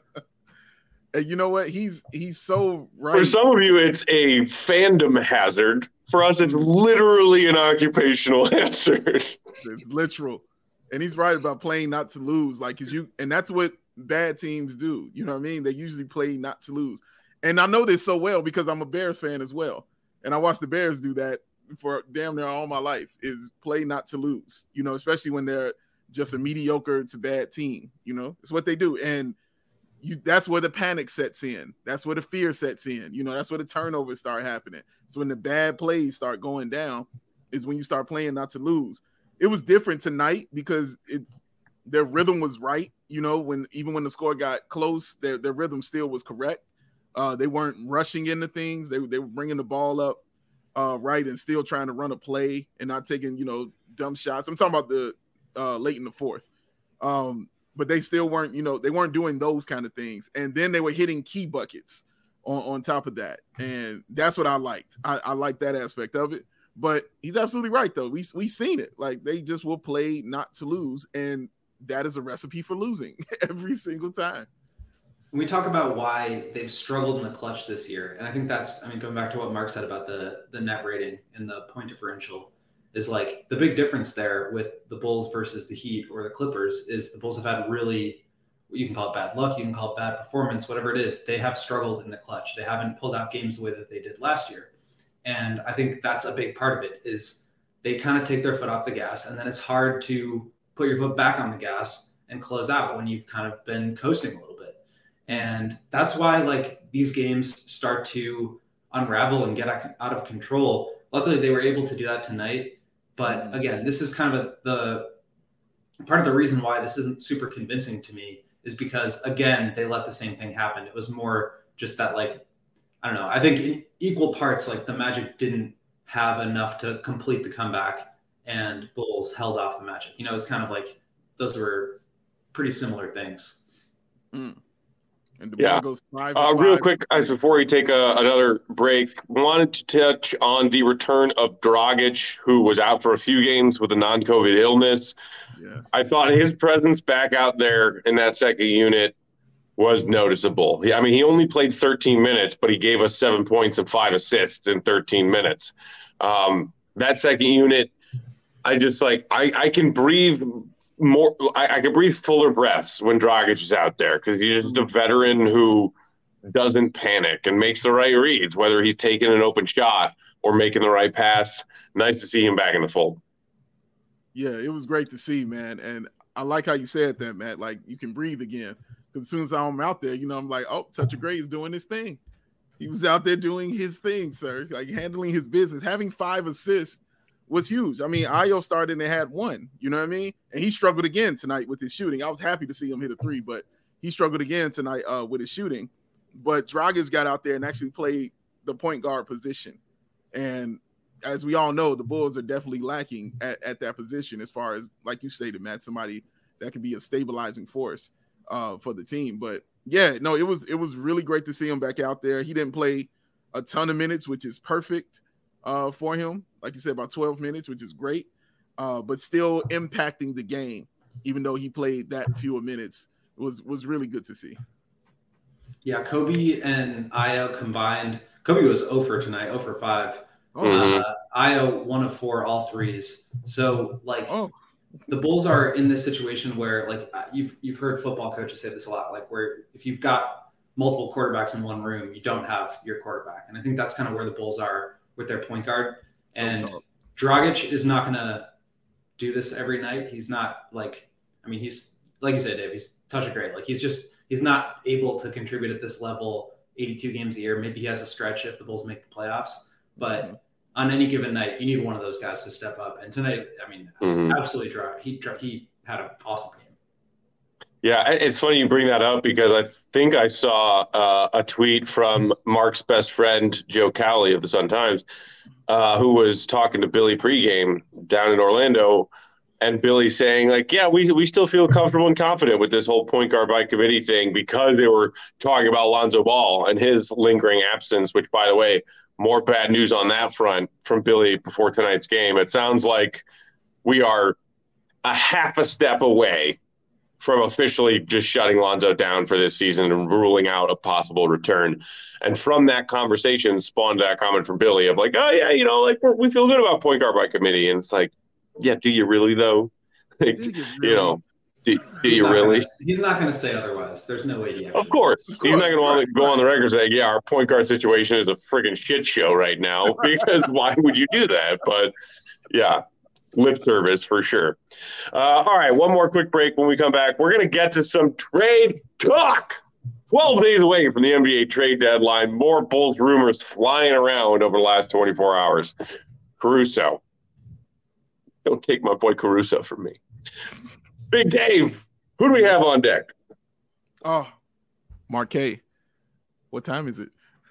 And you know what? He's he's so right. For some of you, it's a fandom hazard. For us, it's literally an occupational hazard. It's literal. And he's right about playing not to lose. Like, cause you, and that's what bad teams do. You know what I mean? They usually play not to lose. And I know this so well because I'm a Bears fan as well. And I watch the Bears do that for damn near all my life, is play not to lose, you know, especially when they're just a mediocre to bad team. You know, it's what they do. And you, that's where the panic sets in. That's where the fear sets in. You know, that's where the turnovers start happening. So when the bad plays start going down is when you start playing not to lose. It was different tonight because it their rhythm was right. You know, when even when the score got close, their, their rhythm still was correct. Uh, they weren't rushing into things. They, they were bringing the ball up uh, right and still trying to run a play and not taking, you know, dumb shots. I'm talking about the uh, late in the fourth. Um, but they still weren't, you know, they weren't doing those kind of things. And then they were hitting key buckets on, on top of that. And that's what I liked. I, I like that aspect of it. But he's absolutely right, though. We we seen it. Like, they just will play not to lose, and that is a recipe for losing every single time. We talk about why they've struggled in the clutch this year, and I think that's, I mean, going back to what Mark said about the the net rating and the point differential, is like the big difference there with the Bulls versus the Heat or the Clippers is the Bulls have had really, you can call it bad luck, you can call it bad performance, whatever it is. They have struggled in the clutch. They haven't pulled out games the way that they did last year. And I think that's a big part of it is they kind of take their foot off the gas, and then it's hard to put your foot back on the gas and close out when you've kind of been coasting a little bit. And that's why, like, these games start to unravel and get out of control. Luckily, they were able to do that tonight. But again, this is kind of a, the part of the reason why this isn't super convincing to me is because, again, they let the same thing happen. It was more just that, like, I don't know. I think in equal parts, like, the Magic didn't have enough to complete the comeback and Bulls held off the Magic. You know, it's kind of like those were pretty similar things. Mm. And the yeah. goes five uh, five. Real quick, guys, before we take a, another break, wanted to touch on the return of Dragic, who was out for a few games with a non-COVID illness. Yeah. I thought his presence back out there in that second unit was noticeable. I mean, he only played thirteen minutes, but he gave us seven points and five assists in thirteen minutes. Um, that second unit, I just like, I, I can breathe more. I, I can breathe fuller breaths when Dragic is out there because he's just a veteran who doesn't panic and makes the right reads, whether he's taking an open shot or making the right pass. Nice to see him back in the fold. Yeah, it was great to see, man. And I like how you said that, Matt. Like, you can breathe again. Because as soon as I'm out there, you know, I'm like, oh, Toucher Gray is doing his thing. He was out there doing his thing, sir. Like, handling his business. Having five assists was huge. I mean, Ayo started and had one. You know what I mean? And he struggled again tonight with his shooting. I was happy to see him hit a three, but he struggled again tonight uh, with his shooting. But Dragic got out there and actually played the point guard position. And as we all know, the Bulls are definitely lacking at, at that position as far as, like you stated, Matt, somebody that can be a stabilizing force. uh, for the team. But yeah, no, it was it was really great to see him back out there. He didn't play a ton of minutes, which is perfect uh, for him. Like you said, about twelve minutes, which is great, uh, but still impacting the game, even though he played that fewer minutes. It was was really good to see. Yeah, Kobe and Ayo combined. Kobe was zero for tonight, zero for five. Oh, Mhm. Uh, Ayo one of four, all threes. So like oh. the Bulls are in this situation where like you've you've heard football coaches say this a lot, like where if you've got multiple quarterbacks in one room, you don't have your quarterback. And I think that's kind of where the Bulls are with their point guard. And Dragic is not going to do this every night. He's not like, I mean, he's like you said, Dave, he's touch it great. Like he's just, he's not able to contribute at this level eighty-two games a year. Maybe he has a stretch if the Bulls make the playoffs, but mm-hmm. on any given night, you need one of those guys to step up. And tonight, I mean, mm-hmm. absolutely dry. He, he had an awesome game. Yeah, it's funny you bring that up because I think I saw uh, a tweet from Mark's best friend, Joe Cowley of the Sun-Times, uh, who was talking to Billy pregame down in Orlando. And Billy saying, like, yeah, we we still feel comfortable and confident with this whole point guard by committee thing because they were talking about Lonzo Ball and his lingering absence, which, by the way, more bad news on that front from Billy before tonight's game. It sounds like we are a half a step away from officially just shutting Lonzo down for this season and ruling out a possible return. And from that conversation spawned that comment from Billy of like, oh, yeah, you know, like we're, we feel good about point guard by committee. And it's like, yeah, do you really though? Like, you, really? you know, do, do you really? Gonna, he's not going to say otherwise. There's no way he. Of course. of course, he's not going to want to go on the record and say, "Yeah, our point guard situation is a friggin' shit show right now." Because why would you do that? But yeah, lip service for sure. Uh, all right, one more quick break. When we come back, we're going to get to some trade talk. Twelve days away from the N B A trade deadline. More Bulls rumors flying around over the last twenty-four hours. Caruso. Don't take my boy Caruso from me. Big Dave, who do we have on deck? Oh, Marquet. What time is it?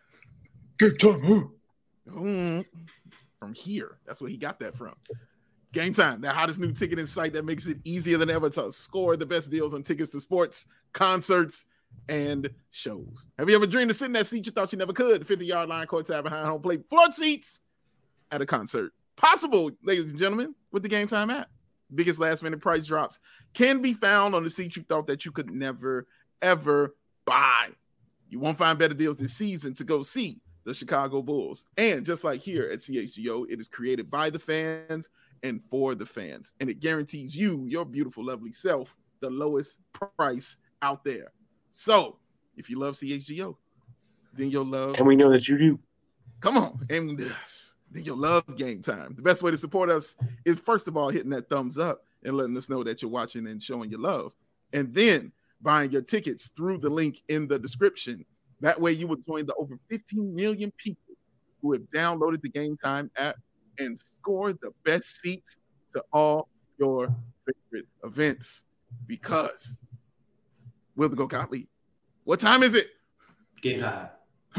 Good time, huh? Mm, from here. That's where he got that from. Game Time, the hottest new ticketing site that makes it easier than ever to score the best deals on tickets to sports, concerts, and shows. Have you ever dreamed of sitting in that seat you thought you never could? The fifty-yard line, courtside, behind home plate, floor seats at a concert. Possible, ladies and gentlemen, with the Game Time app. Biggest last minute price drops can be found on the seats you thought that you could never, ever buy. You won't find better deals this season to go see the Chicago Bulls. And just like here at C H G O, it is created by the fans and for the fans. And it guarantees you, your beautiful, lovely self, the lowest price out there. So if you love C H G O, then you'll love. And we know that you do. Come on. And uh, then you'll love Game Time. The best way to support us is, first of all, hitting that thumbs up and letting us know that you're watching and showing your love. And then buying your tickets through the link in the description. That way you will join the over fifteen million people who have downloaded the Game Time app and score the best seats to all your favorite events. Because, Will the Go Gottlieb, what time is it? Game Time.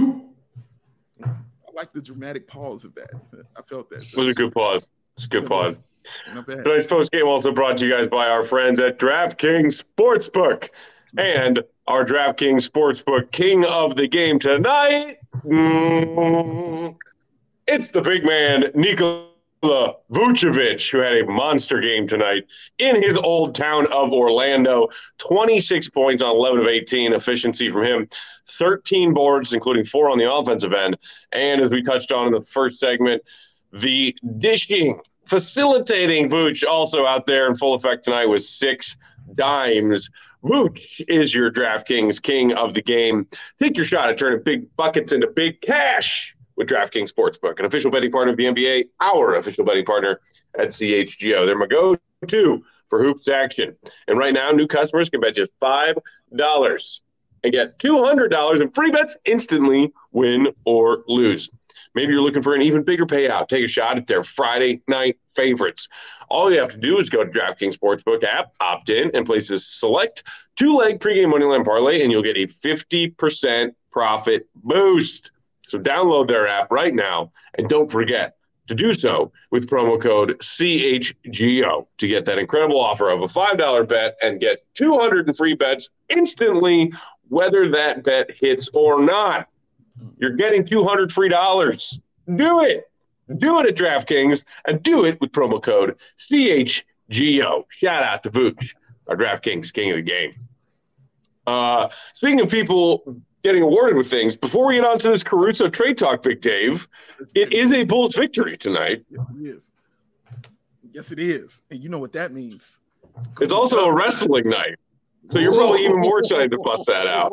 I like the dramatic pause of that. I felt that. It was a good pause. It's a good Not pause. bad. Not bad. Tonight's post game also brought to you guys by our friends at DraftKings Sportsbook and our DraftKings Sportsbook king of the game tonight. Mm, it's the big man, Nikola Vucevic, who had a monster game tonight in his old town of Orlando. twenty-six points on eleven of eighteen, efficiency from him. thirteen boards, including four on the offensive end. And as we touched on in the first segment, the dishing, facilitating Vooch also out there in full effect tonight with six dimes. Vooch is your DraftKings king of the game. Take your shot at turning big buckets into big cash with DraftKings Sportsbook, an official betting partner of the N B A, our official betting partner at C H G O. They're my go-to for hoops action. And right now, new customers can bet just five dollars and get two hundred dollars in free bets instantly, win or lose. Maybe you're looking for an even bigger payout. Take a shot at their Friday night favorites. All you have to do is go to DraftKings Sportsbook app, opt in, and place a select two-leg pregame moneyline parlay, and you'll get a fifty percent profit boost. So download their app right now, and don't forget to do so with promo code C H G O to get that incredible offer of a five dollar bet and get two hundred free bets instantly, whether that bet hits or not. You're getting two hundred free dollars. Do it. Do it at DraftKings and do it with promo code C H G O. Shout out to Vooch, our DraftKings king of the game. Uh, speaking of people getting awarded with things, before we get on to this Caruso trade talk, Big Dave, it is a Bulls victory tonight. Yes, it is. Yes, it is. And you know what that means. It's, it's also a wrestling night. So you're probably even more excited to bust that out.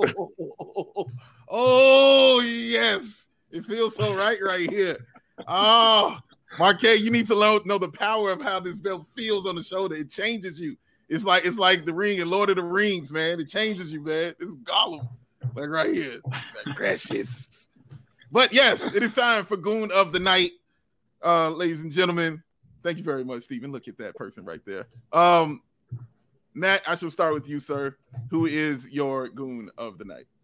Oh, yes. It feels so right right here. Oh, Marquez, you need to know, know the power of how this belt feels on the shoulder. It changes you. It's like it's like the ring in Lord of the Rings, man. It changes you, man. This is Gollum. Like right here. Like precious. But yes, it is time for Goon of the Night. Uh, ladies and gentlemen. Thank you very much, Stephen. Look at that person right there. Um, Matt, I shall start with you, sir. Who is your Goon of the Night?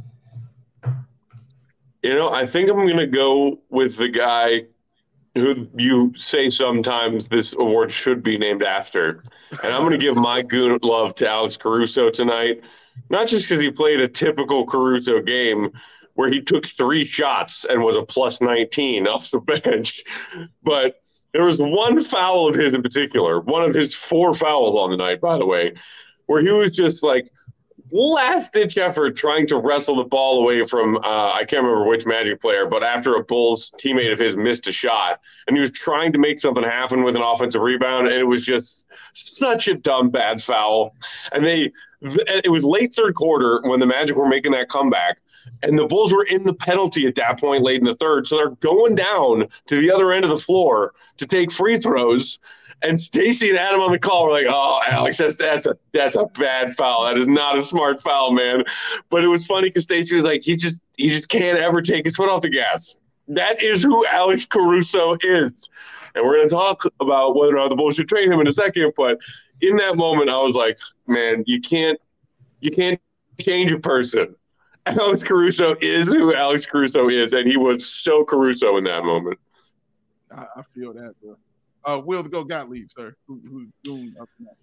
You know, I think I'm going to go with the guy who you say sometimes this award should be named after. And I'm going to give my goon love to Alex Caruso tonight, not just because he played a typical Caruso game where he took three shots and was a plus nineteen off the bench, but there was one foul of his in particular, one of his four fouls on the night, by the way, where he was just like last-ditch effort trying to wrestle the ball away from, uh, I can't remember which Magic player, but after a Bulls teammate of his missed a shot, and he was trying to make something happen with an offensive rebound, and it was just such a dumb, bad foul. And they, it was late third quarter when the Magic were making that comeback, and the Bulls were in the penalty at that point late in the third, so they're going down to the other end of the floor to take free throws. And Stacy and Adam on the call were like, "Oh, Alex, that's that's a that's a bad foul. That is not a smart foul, man." But it was funny because Stacy was like, "He just he just can't ever take his foot off the gas." That is who Alex Caruso is, and we're going to talk about whether or not the Bulls should trade him in a second. But in that moment, I was like, "Man, you can't you can't change a person." Alex Caruso is who Alex Caruso is, and he was so Caruso in that moment. I, I feel that, bro. Uh, Will to go Gottlieb, sir. Who, who's doing up next?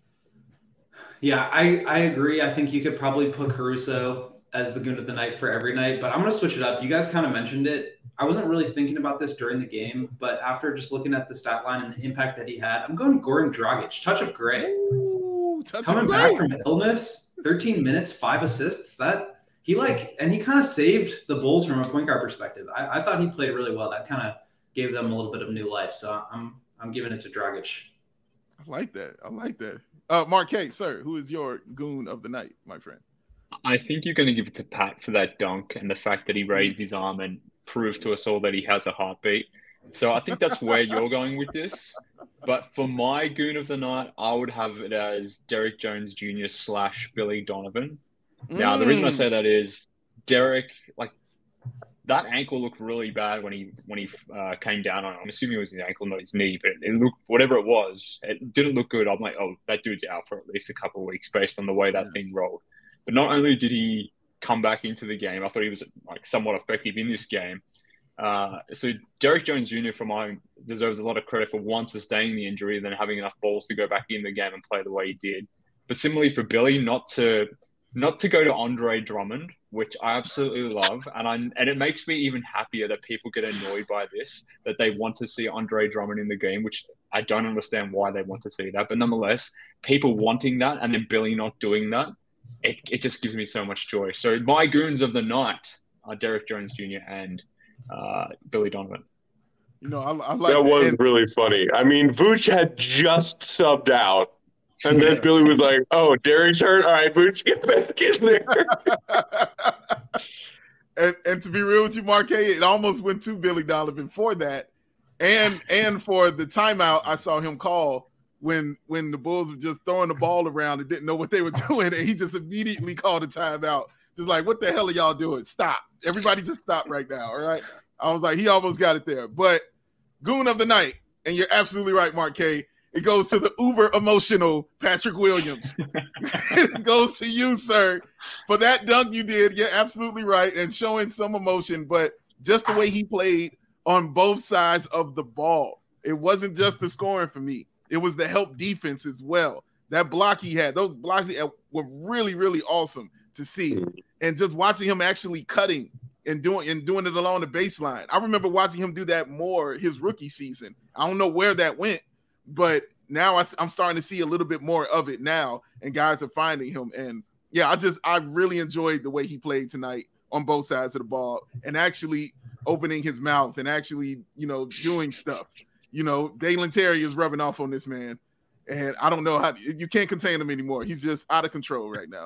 Yeah, I, I agree. I think you could probably put Caruso as the goon of the night for every night, but I'm going to switch it up. You guys kind of mentioned it. I wasn't really thinking about this during the game, but after just looking at the stat line and the impact that he had, I'm going Goran Dragic. Touch of gray. Ooh, touch Coming of back gray. from illness, thirteen minutes, five assists. That he like, and he kind of saved the Bulls from a point guard perspective. I, I thought he played really well. That kind of gave them a little bit of new life. So I'm I'm giving it to Dragic. I like that. I like that. Uh, Marquez, sir, who is your goon of the night, my friend? I think you're going to give it to Pat for that dunk and the fact that he raised his arm and proved to us all that he has a heartbeat. So I think that's where you're going with this. But for my goon of the night, I would have it as Derek Jones Junior slash Billy Donovan. Now, the reason I say that is Derek, like, that ankle looked really bad when he when he uh, came down on it. I'm assuming it was his ankle, not his knee, but it looked, whatever it was, it didn't look good. I'm like, oh, that dude's out for at least a couple of weeks based on the way that thing rolled. But not only did he come back into the game, I thought he was like somewhat effective in this game. Uh, so Derek Jones Junior for mine deserves a lot of credit for one, sustaining the injury, and then having enough balls to go back in the game and play the way he did. But similarly for Billy, not to not to go to Andre Drummond, which I absolutely love, and I and it makes me even happier that people get annoyed by this, that they want to see Andre Drummond in the game, which I don't understand why they want to see that. But nonetheless, people wanting that and then Billy not doing that, it it just gives me so much joy. So my goons of the night are Derek Jones Junior and uh, Billy Donovan. You know, I, I like that. that was and, really funny. I mean, Vooch had just subbed out. And then yeah. Billy was like, "Oh, Derek's hurt. All right, Vooch, get back in there." and, and to be real with you, Marquez, it almost went to Billy Donovan for that, and and for the timeout I saw him call when when the Bulls were just throwing the ball around and didn't know what they were doing, and he just immediately called a timeout. Just like, what the hell are y'all doing? Stop! Everybody, just stop right now. All right. I was like, he almost got it there, but goon of the night, and you're absolutely right, Marquez. It goes to the uber emotional Patrick Williams. It goes to you, sir, for that dunk you did. You're absolutely right, and showing some emotion, but just the way he played on both sides of the ball. It wasn't just the scoring for me. It was the help defense as well. That block he had, those blocks he had were really, really awesome to see. And just watching him actually cutting and doing and doing it along the baseline. I remember watching him do that more his rookie season. I don't know where that went, but now I, I'm starting to see a little bit more of it now, and guys are finding him. And yeah, I just I really enjoyed the way he played tonight on both sides of the ball, and actually opening his mouth and actually, you know, doing stuff. You know, Dalen Terry is rubbing off on this man, and I don't know how you can't contain him anymore. He's just out of control right now.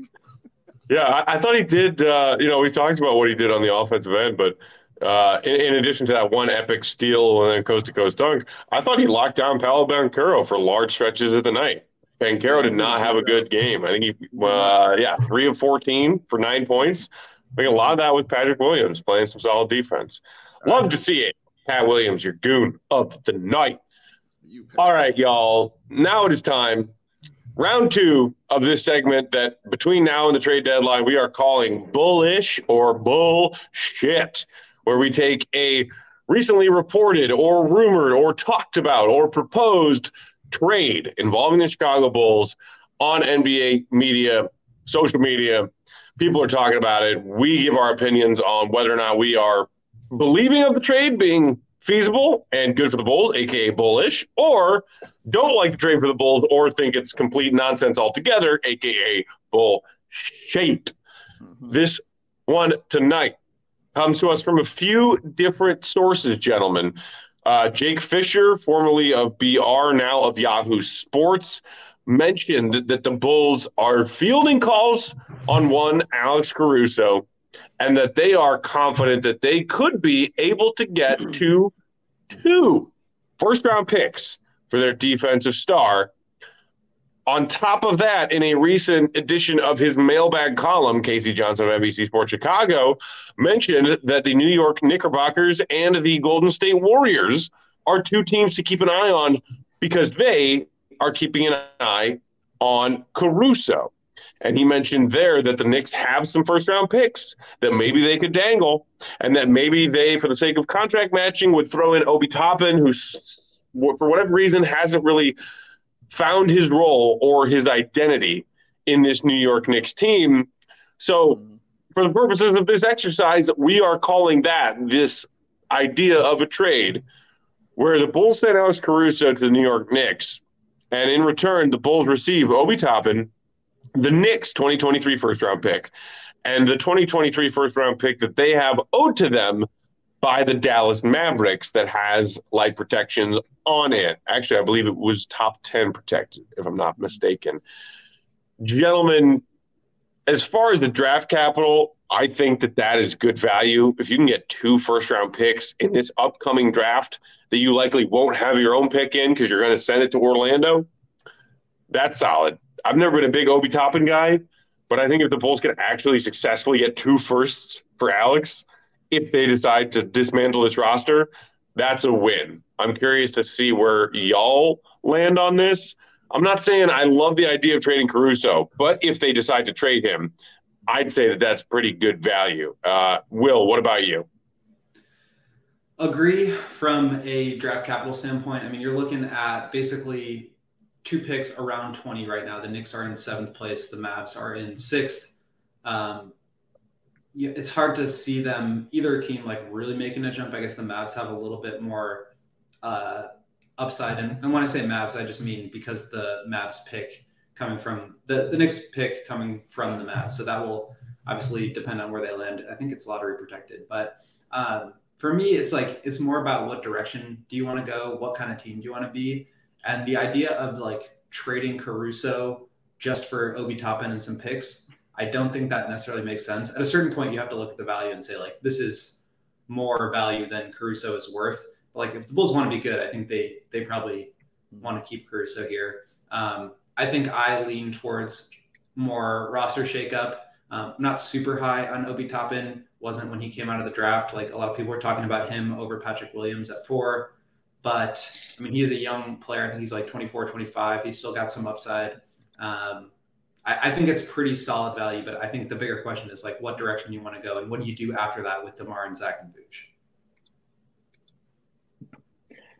Yeah, I, I thought he did. Uh, you know, we talked about what he did on the offensive end, but uh, in, in addition to that one epic steal and then coast to coast dunk, I thought he locked down Paolo Banchero for large stretches of the night. Banchero did not have a good game. I think he, uh, yeah, three of fourteen for nine points. I think a lot of that was Patrick Williams playing some solid defense. Love to see it. Pat Williams, your goon of the night. All right, y'all. Now it is time. Round two of this segment that between now and the trade deadline, we are calling bullish or bullshit, where we take a recently reported or rumored or talked about or proposed trade involving the Chicago Bulls on N B A media, social media. People are talking about it. We give our opinions on whether or not we are believing of the trade being feasible and good for the Bulls, a k a bullish, or don't like the trade for the Bulls or think it's complete nonsense altogether, a k a bullshit. Mm-hmm. This one tonight comes to us from a few different sources, gentlemen. Uh, Jake Fisher, formerly of B R, now of Yahoo Sports, mentioned that the Bulls are fielding calls on one Alex Caruso, and that they are confident that they could be able to get to two first-round picks for their defensive star. On top of that, in a recent edition of his mailbag column, Casey Johnson of N B C Sports Chicago mentioned that the New York Knickerbockers and the Golden State Warriors are two teams to keep an eye on because they are keeping an eye on Caruso. And he mentioned there that the Knicks have some first-round picks that maybe they could dangle, and that maybe they, for the sake of contract matching, would throw in Obi Toppin, who, for whatever reason, hasn't really found his role or his identity in this New York Knicks team. So for the purposes of this exercise, we are calling that this idea of a trade where the Bulls send Alex Caruso to the New York Knicks, and in return, the Bulls receive Obi Toppin, the Knicks twenty twenty-three first-round pick, and the twenty twenty-three first-round pick that they have owed to them by the Dallas Mavericks that has light protections on it. Actually, I believe it was top ten protected, if I'm not mistaken. Gentlemen, as far as the draft capital, I think that that is good value. If you can get two first-round picks in this upcoming draft that you likely won't have your own pick in because you're going to send it to Orlando, that's solid. I've never been a big Obi Toppin guy, but I think if the Bulls can actually successfully get two firsts for Alex, if they decide to dismantle this roster, that's a win. I'm curious to see where y'all land on this. I'm not saying I love the idea of trading Caruso, but if they decide to trade him, I'd say that that's pretty good value. Uh, Will, what about you? Agree from a draft capital standpoint. I mean, you're looking at basically two picks around twenty right now. The Knicks are in seventh place. The Mavs are in sixth. Um, yeah, it's hard to see them, either team, like really making a jump. I guess the Mavs have a little bit more uh, upside. And, and when I say Mavs, I just mean because the Mavs pick coming from the, the Knicks pick coming from the Mavs. So that will obviously depend on where they land. I think it's lottery protected. But um, for me, it's like, it's more about what direction do you want to go? What kind of team do you want to be? And the idea of like trading Caruso just for Obi Toppin and some picks, I don't think that necessarily makes sense. At a certain point, you have to look at the value and say, like, this is more value than Caruso is worth. But like, if the Bulls want to be good, I think they they probably want to keep Caruso here. Um, I think I lean towards more roster shakeup. Um, not super high on Obi Toppin. Wasn't when he came out of the draft. Like a lot of people were talking about him over Patrick Williams at four. But, I mean, he is a young player. I think he's like twenty-four, twenty-five. He's still got some upside. Um, I, I think it's pretty solid value, but I think the bigger question is, like, what direction you want to go and what do you do after that with DeMar and Zach and Vooch?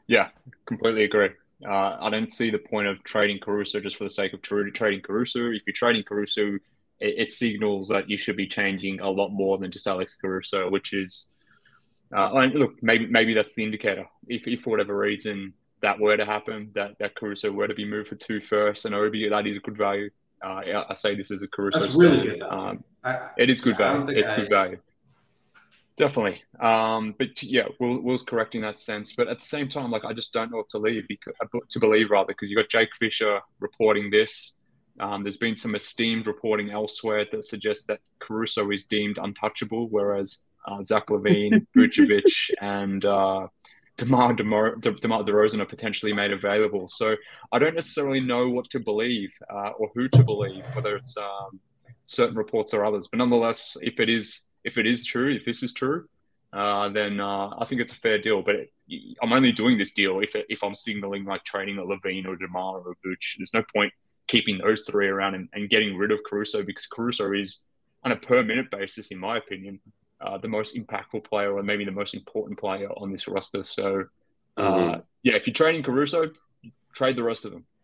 Yeah, completely agree. Uh, I don't see the point of trading Caruso just for the sake of tra- trading Caruso. If you're trading Caruso, it, it signals that you should be changing a lot more than just Alex Caruso, which is, uh, and look, maybe maybe that's the indicator. If, if for whatever reason that were to happen, that, that Caruso were to be moved for two firsts and Obi, that is good value. Uh, I, I say this as a Caruso That's really stan. good value. Um, I, it is good yeah, I value. don't think It's I, good value. Definitely. Um, but yeah, Will Will's correct in that sense. But at the same time, like I just don't know what to leave because, to believe rather, because you got Jake Fisher reporting this. Um, there's been some esteemed reporting elsewhere that suggests that Caruso is deemed untouchable, whereas uh, Zach LaVine, Vucevic, and uh, DeMar, DeMar, De- DeMar DeRozan are potentially made available. So I don't necessarily know what to believe uh, or who to believe, whether it's um, certain reports or others. But nonetheless, if it is if it is true, if this is true, uh, then uh, I think it's a fair deal. But it, I'm only doing this deal if if I'm signaling like trading a LaVine or DeMar or Vooch. There's no point keeping those three around and, and getting rid of Caruso because Caruso is, on a per minute basis, in my opinion, uh, the most impactful player or maybe the most important player on this roster. So, uh, mm-hmm. yeah, if you're trading Caruso, trade the rest of them.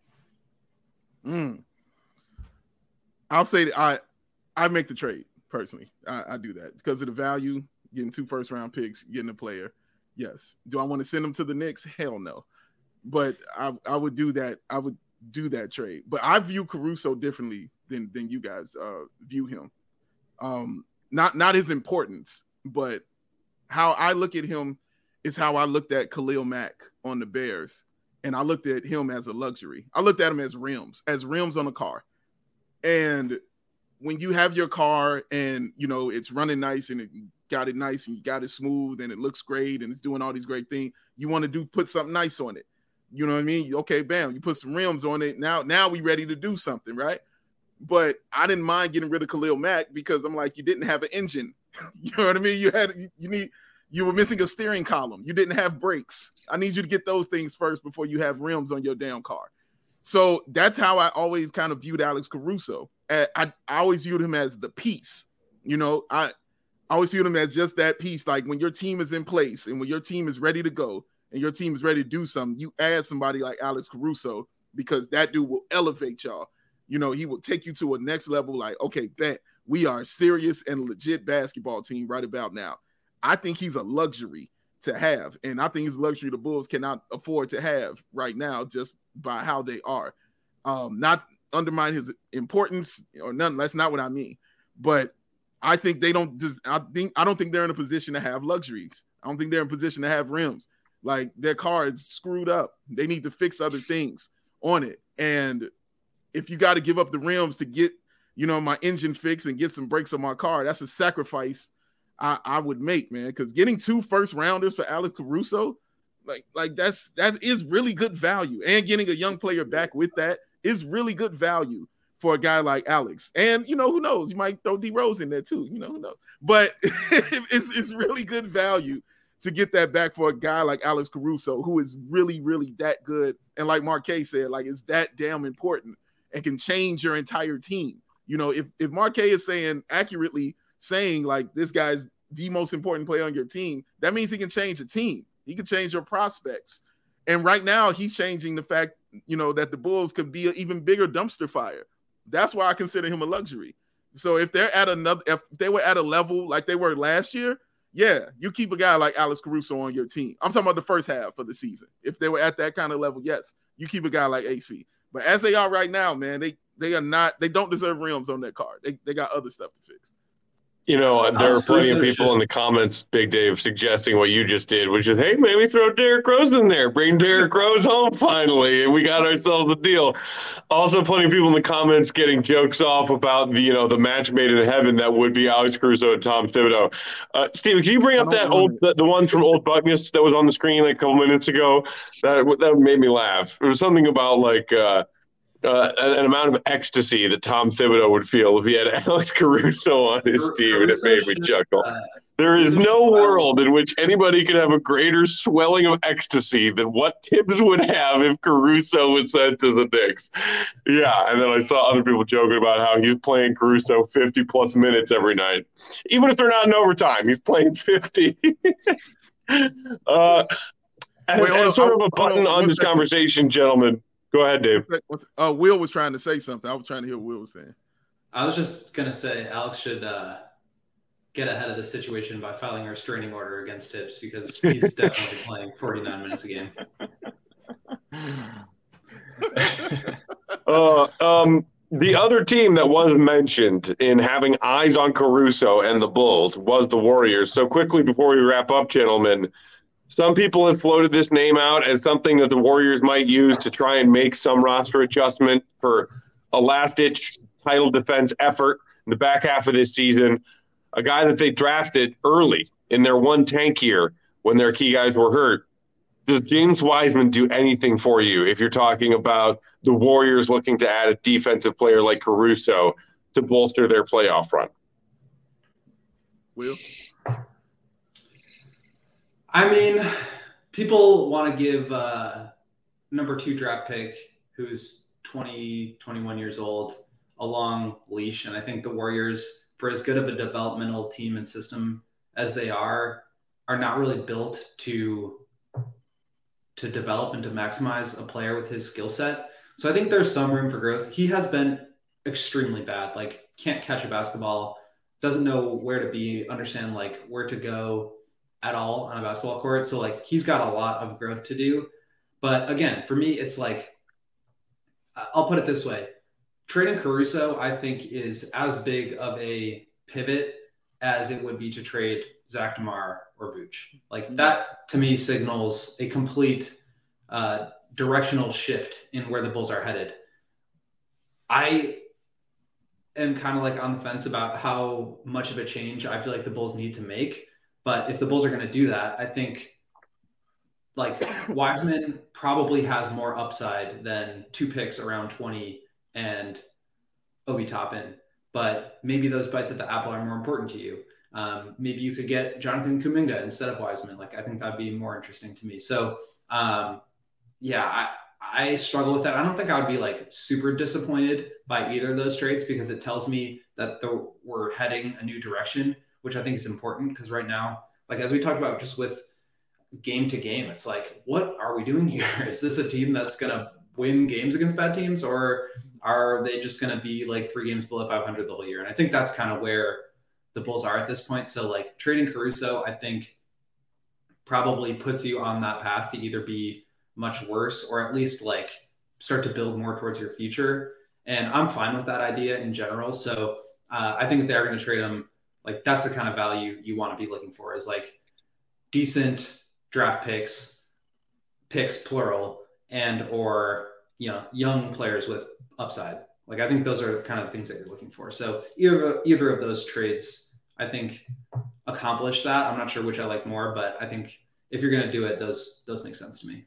Mm. I'll say that I I make the trade personally. I, I do that because of the value, getting two first round picks, getting a player. Yes. Do I want to send them to the Knicks? Hell no. But I I would do that. I would do that trade. But I view Caruso differently than than you guys uh, view him. Um, not not his importance, but how I look at him is how I looked at Khalil Mack on the Bears. And I looked at him as a luxury. I looked at him as rims, as rims on a car. And when you have your car and, you know, it's running nice and it got it nice and you got it smooth and it looks great and it's doing all these great things, you want to do put something nice on it. You know what I mean? Okay, bam, you put some rims on it. Now, now we ready to do something, right? But I didn't mind getting rid of Khalil Mack because I'm like, you didn't have an engine. You know what I mean? You had, you need, you were missing a steering column. You didn't have brakes. I need you to get those things first before you have rims on your damn car. So that's how I always kind of viewed Alex Caruso. I, I, I always viewed him as the piece. You know, I, I always viewed him as just that piece. Like when your team is in place and when your team is ready to go and your team is ready to do something, you add somebody like Alex Caruso because that dude will elevate y'all. You know, he will take you to a next level. Like, okay, bet we are a serious and legit basketball team right about now. I think he's a luxury to have. And I think it's a luxury the Bulls cannot afford to have right now just by how they are. Um, not undermine his importance or nothing. That's not what I mean. But I think they don't just, I think, I don't think they're in a position to have luxuries. I don't think they're in a position to have rims. Like their car is screwed up. They need to fix other things on it. And if you got to give up the rims to get, you know, my engine fixed and get some brakes on my car, that's a sacrifice I, I would make, man. Because getting two first rounders for Alex Caruso, like, like that's that is really good value. And getting a young player back with that is really good value for a guy like Alex. And you know, who knows? You might throw D Rose in there too. You know, who knows? But it's it's really good value to get that back for a guy like Alex Caruso, who is really, really that good. And like Marquez said, like it's that damn important and can change your entire team. You know, if if Marquez is saying accurately saying like this guy's the most important player on your team, that means he can change a team. He can change your prospects. And right now he's changing the fact, you know, that the Bulls could be an even bigger dumpster fire. That's why I consider him a luxury. So if they're at another, if they were at a level like they were last year, yeah, you keep a guy like Alex Caruso on your team. I'm talking about the first half of the season. If they were at that kind of level, yes, you keep a guy like A C. But as they are right now, man, they they are not, they don't deserve rims on their car. They they got other stuff to fix. You know, there are plenty of people in the comments, Big Dave, suggesting what you just did, which is, hey, maybe throw Derrick Rose in there. Bring Derrick Rose home finally, and we got ourselves a deal. Also, plenty of people in the comments getting jokes off about the, you know, the match made in heaven that would be Alex Caruso and Tom Thibodeau. Uh, Steven, can you bring up that old, the, the one from Old Buckness that was on the screen like a couple minutes ago? That that made me laugh. It was something about like. Uh, Uh, an, an amount of ecstasy that Tom Thibodeau would feel if he had Alex Caruso on his Car- team, and it made me chuckle. Uh, there is no world in which anybody could have a greater swelling of ecstasy than what Tibbs would have if Caruso was sent to the Knicks. Yeah, and then I saw other people joking about how he's playing Caruso fifty-plus minutes every night. Even if they're not in overtime, he's playing fifty. uh as, Wait, hold as on, sort I- of a button hold on, on one this second. conversation, gentlemen. Go ahead, Dave. Uh, Will was trying to say something. I was trying to hear what Will was saying. I was just gonna say Alex should uh, get ahead of the situation by filing a restraining order against Tibbs because he's definitely playing forty-nine minutes a game. Uh, um, the other team that was mentioned in having eyes on Caruso and the Bulls was the Warriors. So quickly before we wrap up, gentlemen, some people have floated this name out as something that the Warriors might use to try and make some roster adjustment for a last-ditch title defense effort in the back half of this season. A guy that they drafted early in their one tank year when their key guys were hurt. Does James Wiseman do anything for you if you're talking about the Warriors looking to add a defensive player like Caruso to bolster their playoff run? Will? I mean, people want to give uh, number two draft pick, who's twenty, twenty-one years old, a long leash. And I think the Warriors, for as good of a developmental team and system as they are, are not really built to to develop and to maximize a player with his skill set. So I think there's some room for growth. He has been extremely bad, like can't catch a basketball, doesn't know where to be, understand like where to go at all on a basketball court. So like he's got a lot of growth to do. But again, for me, it's like, I'll put it this way. Trading Caruso, I think, is as big of a pivot as it would be to trade Zach DeMar or Vooch. Like that to me signals a complete uh, directional shift in where the Bulls are headed. I am kind of like on the fence about how much of a change I feel like the Bulls need to make. But if the Bulls are going to do that, I think like Wiseman probably has more upside than two picks around twenty and Obi Toppin. But maybe those bites at the apple are more important to you. Um, maybe you could get Jonathan Kuminga instead of Wiseman. Like, I think that'd be more interesting to me. So, um, yeah, I, I struggle with that. I don't think I would be like super disappointed by either of those trades because it tells me that the, we're heading a new direction, which I think is important because right now, like as we talked about just with game to game, it's like, what are we doing here? Is this a team that's going to win games against bad teams, or are they just going to be like three games below five hundred the whole year? And I think that's kind of where the Bulls are at this point. So like trading Caruso, I think probably puts you on that path to either be much worse or at least like start to build more towards your future. And I'm fine with that idea in general. So uh, I think if they're going to trade him, like that's the kind of value you want to be looking for, is like decent draft picks, picks plural, and or you know young players with upside. Like I think those are kind of the things that you're looking for. So either either of those trades, I think, accomplish that. I'm not sure which I like more, but I think if you're going to do it, those those make sense to me.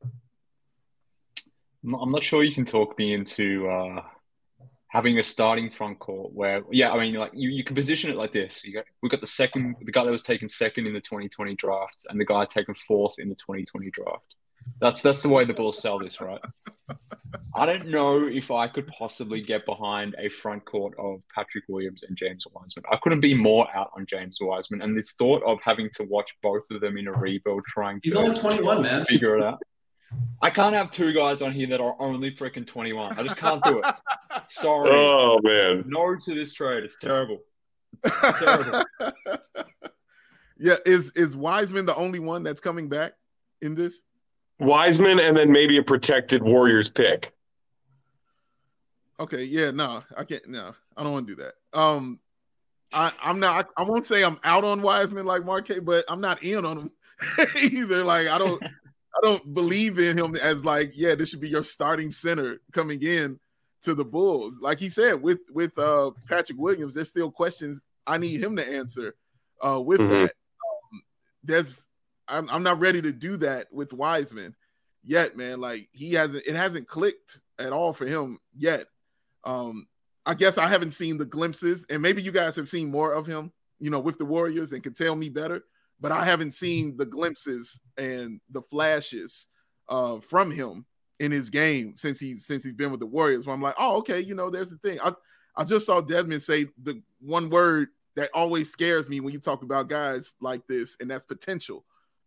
I'm not sure you can talk me into uh, having a starting front court where, yeah, I mean, like you, you can position it like this. You got, we got the second, the guy that was taken second in the twenty twenty draft, and the guy taken fourth in the twenty twenty draft. That's that's the way the Bulls sell this, right? I don't know if I could possibly get behind a front court of Patrick Williams and James Wiseman. I couldn't be more out on James Wiseman, and this thought of having to watch both of them in a rebuild, trying He's to only twenty-one, man. figure it out. I can't have two guys on here that are only freaking twenty-one. I just can't do it. Sorry. Oh, man. No to this trade. It's terrible. It's terrible. Yeah, is is Wiseman the only one that's coming back in this? Wiseman and then maybe a protected Warriors pick. Okay, yeah, no, I can't. No, I don't want to do that. Um, I, I'm not. I, I won't say I'm out on Wiseman like Marquez, but I'm not in on him either. Like I don't, I don't believe in him as like, yeah, this should be your starting center coming in to the Bulls. Like he said with with uh, Patrick Williams, there's still questions I need him to answer. Uh, with Mhm. that, um, there's I'm, I'm not ready to do that with Wiseman yet, man. Like he hasn't, it hasn't clicked at all for him yet. Um, I guess I haven't seen the glimpses, and maybe you guys have seen more of him, you know, with the Warriors and can tell me better, but I haven't seen the glimpses and the flashes uh, from him in his game since he's, since he's been with the Warriors, where I'm like, oh, okay. You know, there's the thing. I, I just saw Desmond say the one word that always scares me when you talk about guys like this, and that's potential.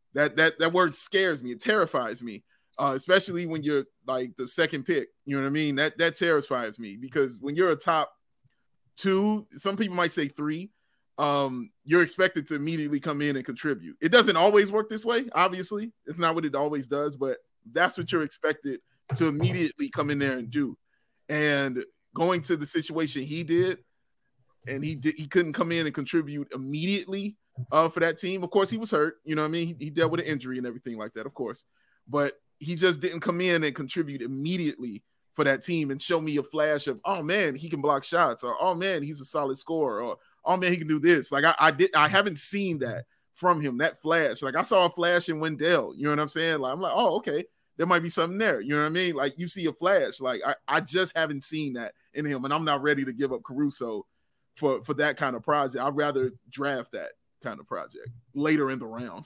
That that that word scares me. It terrifies me, uh, especially when you're like the second pick. You know what I mean? That that terrifies me because when you're a top two, some people might say three, um, you're expected to immediately come in and contribute. It doesn't always work this way. Obviously, it's not what it always does, but that's what you're expected to immediately come in there and do. And going to the situation he did, and he did, he couldn't come in and contribute immediately uh, for that team. Of course, he was hurt. You know what I mean? He, he dealt with an injury and everything like that, of course. But he just didn't come in and contribute immediately for that team and show me a flash of, oh, man, he can block shots, or, oh, man, he's a solid scorer, or, oh, man, he can do this. Like, I, I, did, I haven't seen that from him, that flash. Like, I saw a flash in Wendell. You know what I'm saying? Like, I'm like, oh, okay, there might be something there. You know what I mean? Like, you see a flash. Like, I, I just haven't seen that in him, and I'm not ready to give up Caruso for, for that kind of project. I'd rather draft that kind of project later in the round.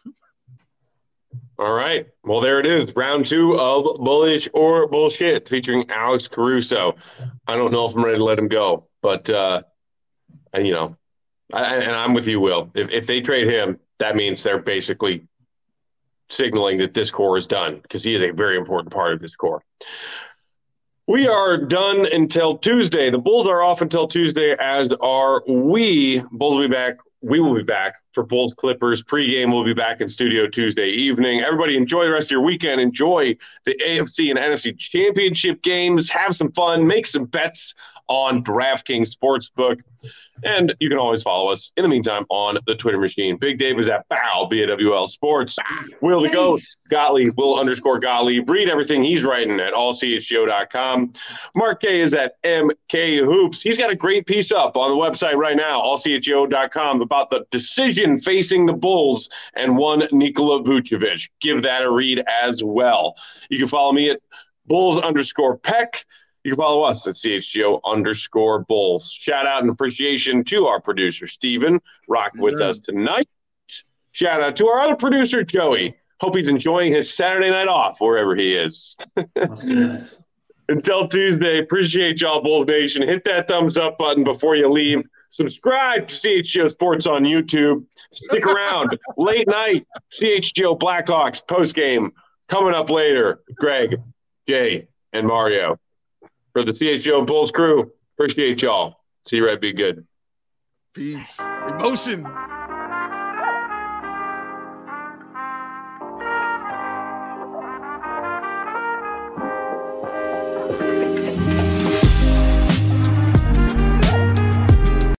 All right. Well, there it is. Round two of Bullish or Bullshit featuring Alex Caruso. I don't know if I'm ready to let him go, but, uh, you know, I, and I'm with you, Will. If, if they trade him, that means they're basically signaling that this core is done because he is a very important part of this core. We are done until Tuesday. The Bulls are off until Tuesday, as are we. Bulls will be back. We will be back for Bulls Clippers pregame. We'll be back in studio Tuesday evening. Everybody enjoy the rest of your weekend. Enjoy the A F C and N F C championship games. Have some fun. Make some bets on DraftKings Sportsbook. And you can always follow us in the meantime on the Twitter machine. Big Dave is at Bow, B A W L Sports. Will the Goat, Gottlieb, Will underscore Gottlieb. Read everything he's writing at all c h g o dot com. Mark K is at M K Hoops. He's got a great piece up on the website right now, all c h g o dot com, about the decision facing the Bulls and one Nikola Vucevic. Give that a read as well. You can follow me at Bulls underscore Peck. You can follow us at C H G O underscore Bulls. Shout out and appreciation to our producer, Steven, rocking with Yeah. us tonight. Shout out to our other producer, Joey. Hope he's enjoying his Saturday night off wherever he is. Must be nice. Until Tuesday, appreciate y'all, Bulls Nation. Hit that thumbs up button before you leave. Subscribe to C H G O Sports on YouTube. Stick around. Late night, C H G O Blackhawks postgame coming up later. Greg, Jay, and Mario. For the C H G O Bulls crew, appreciate y'all. See you right. Be good. Peace. Emotion.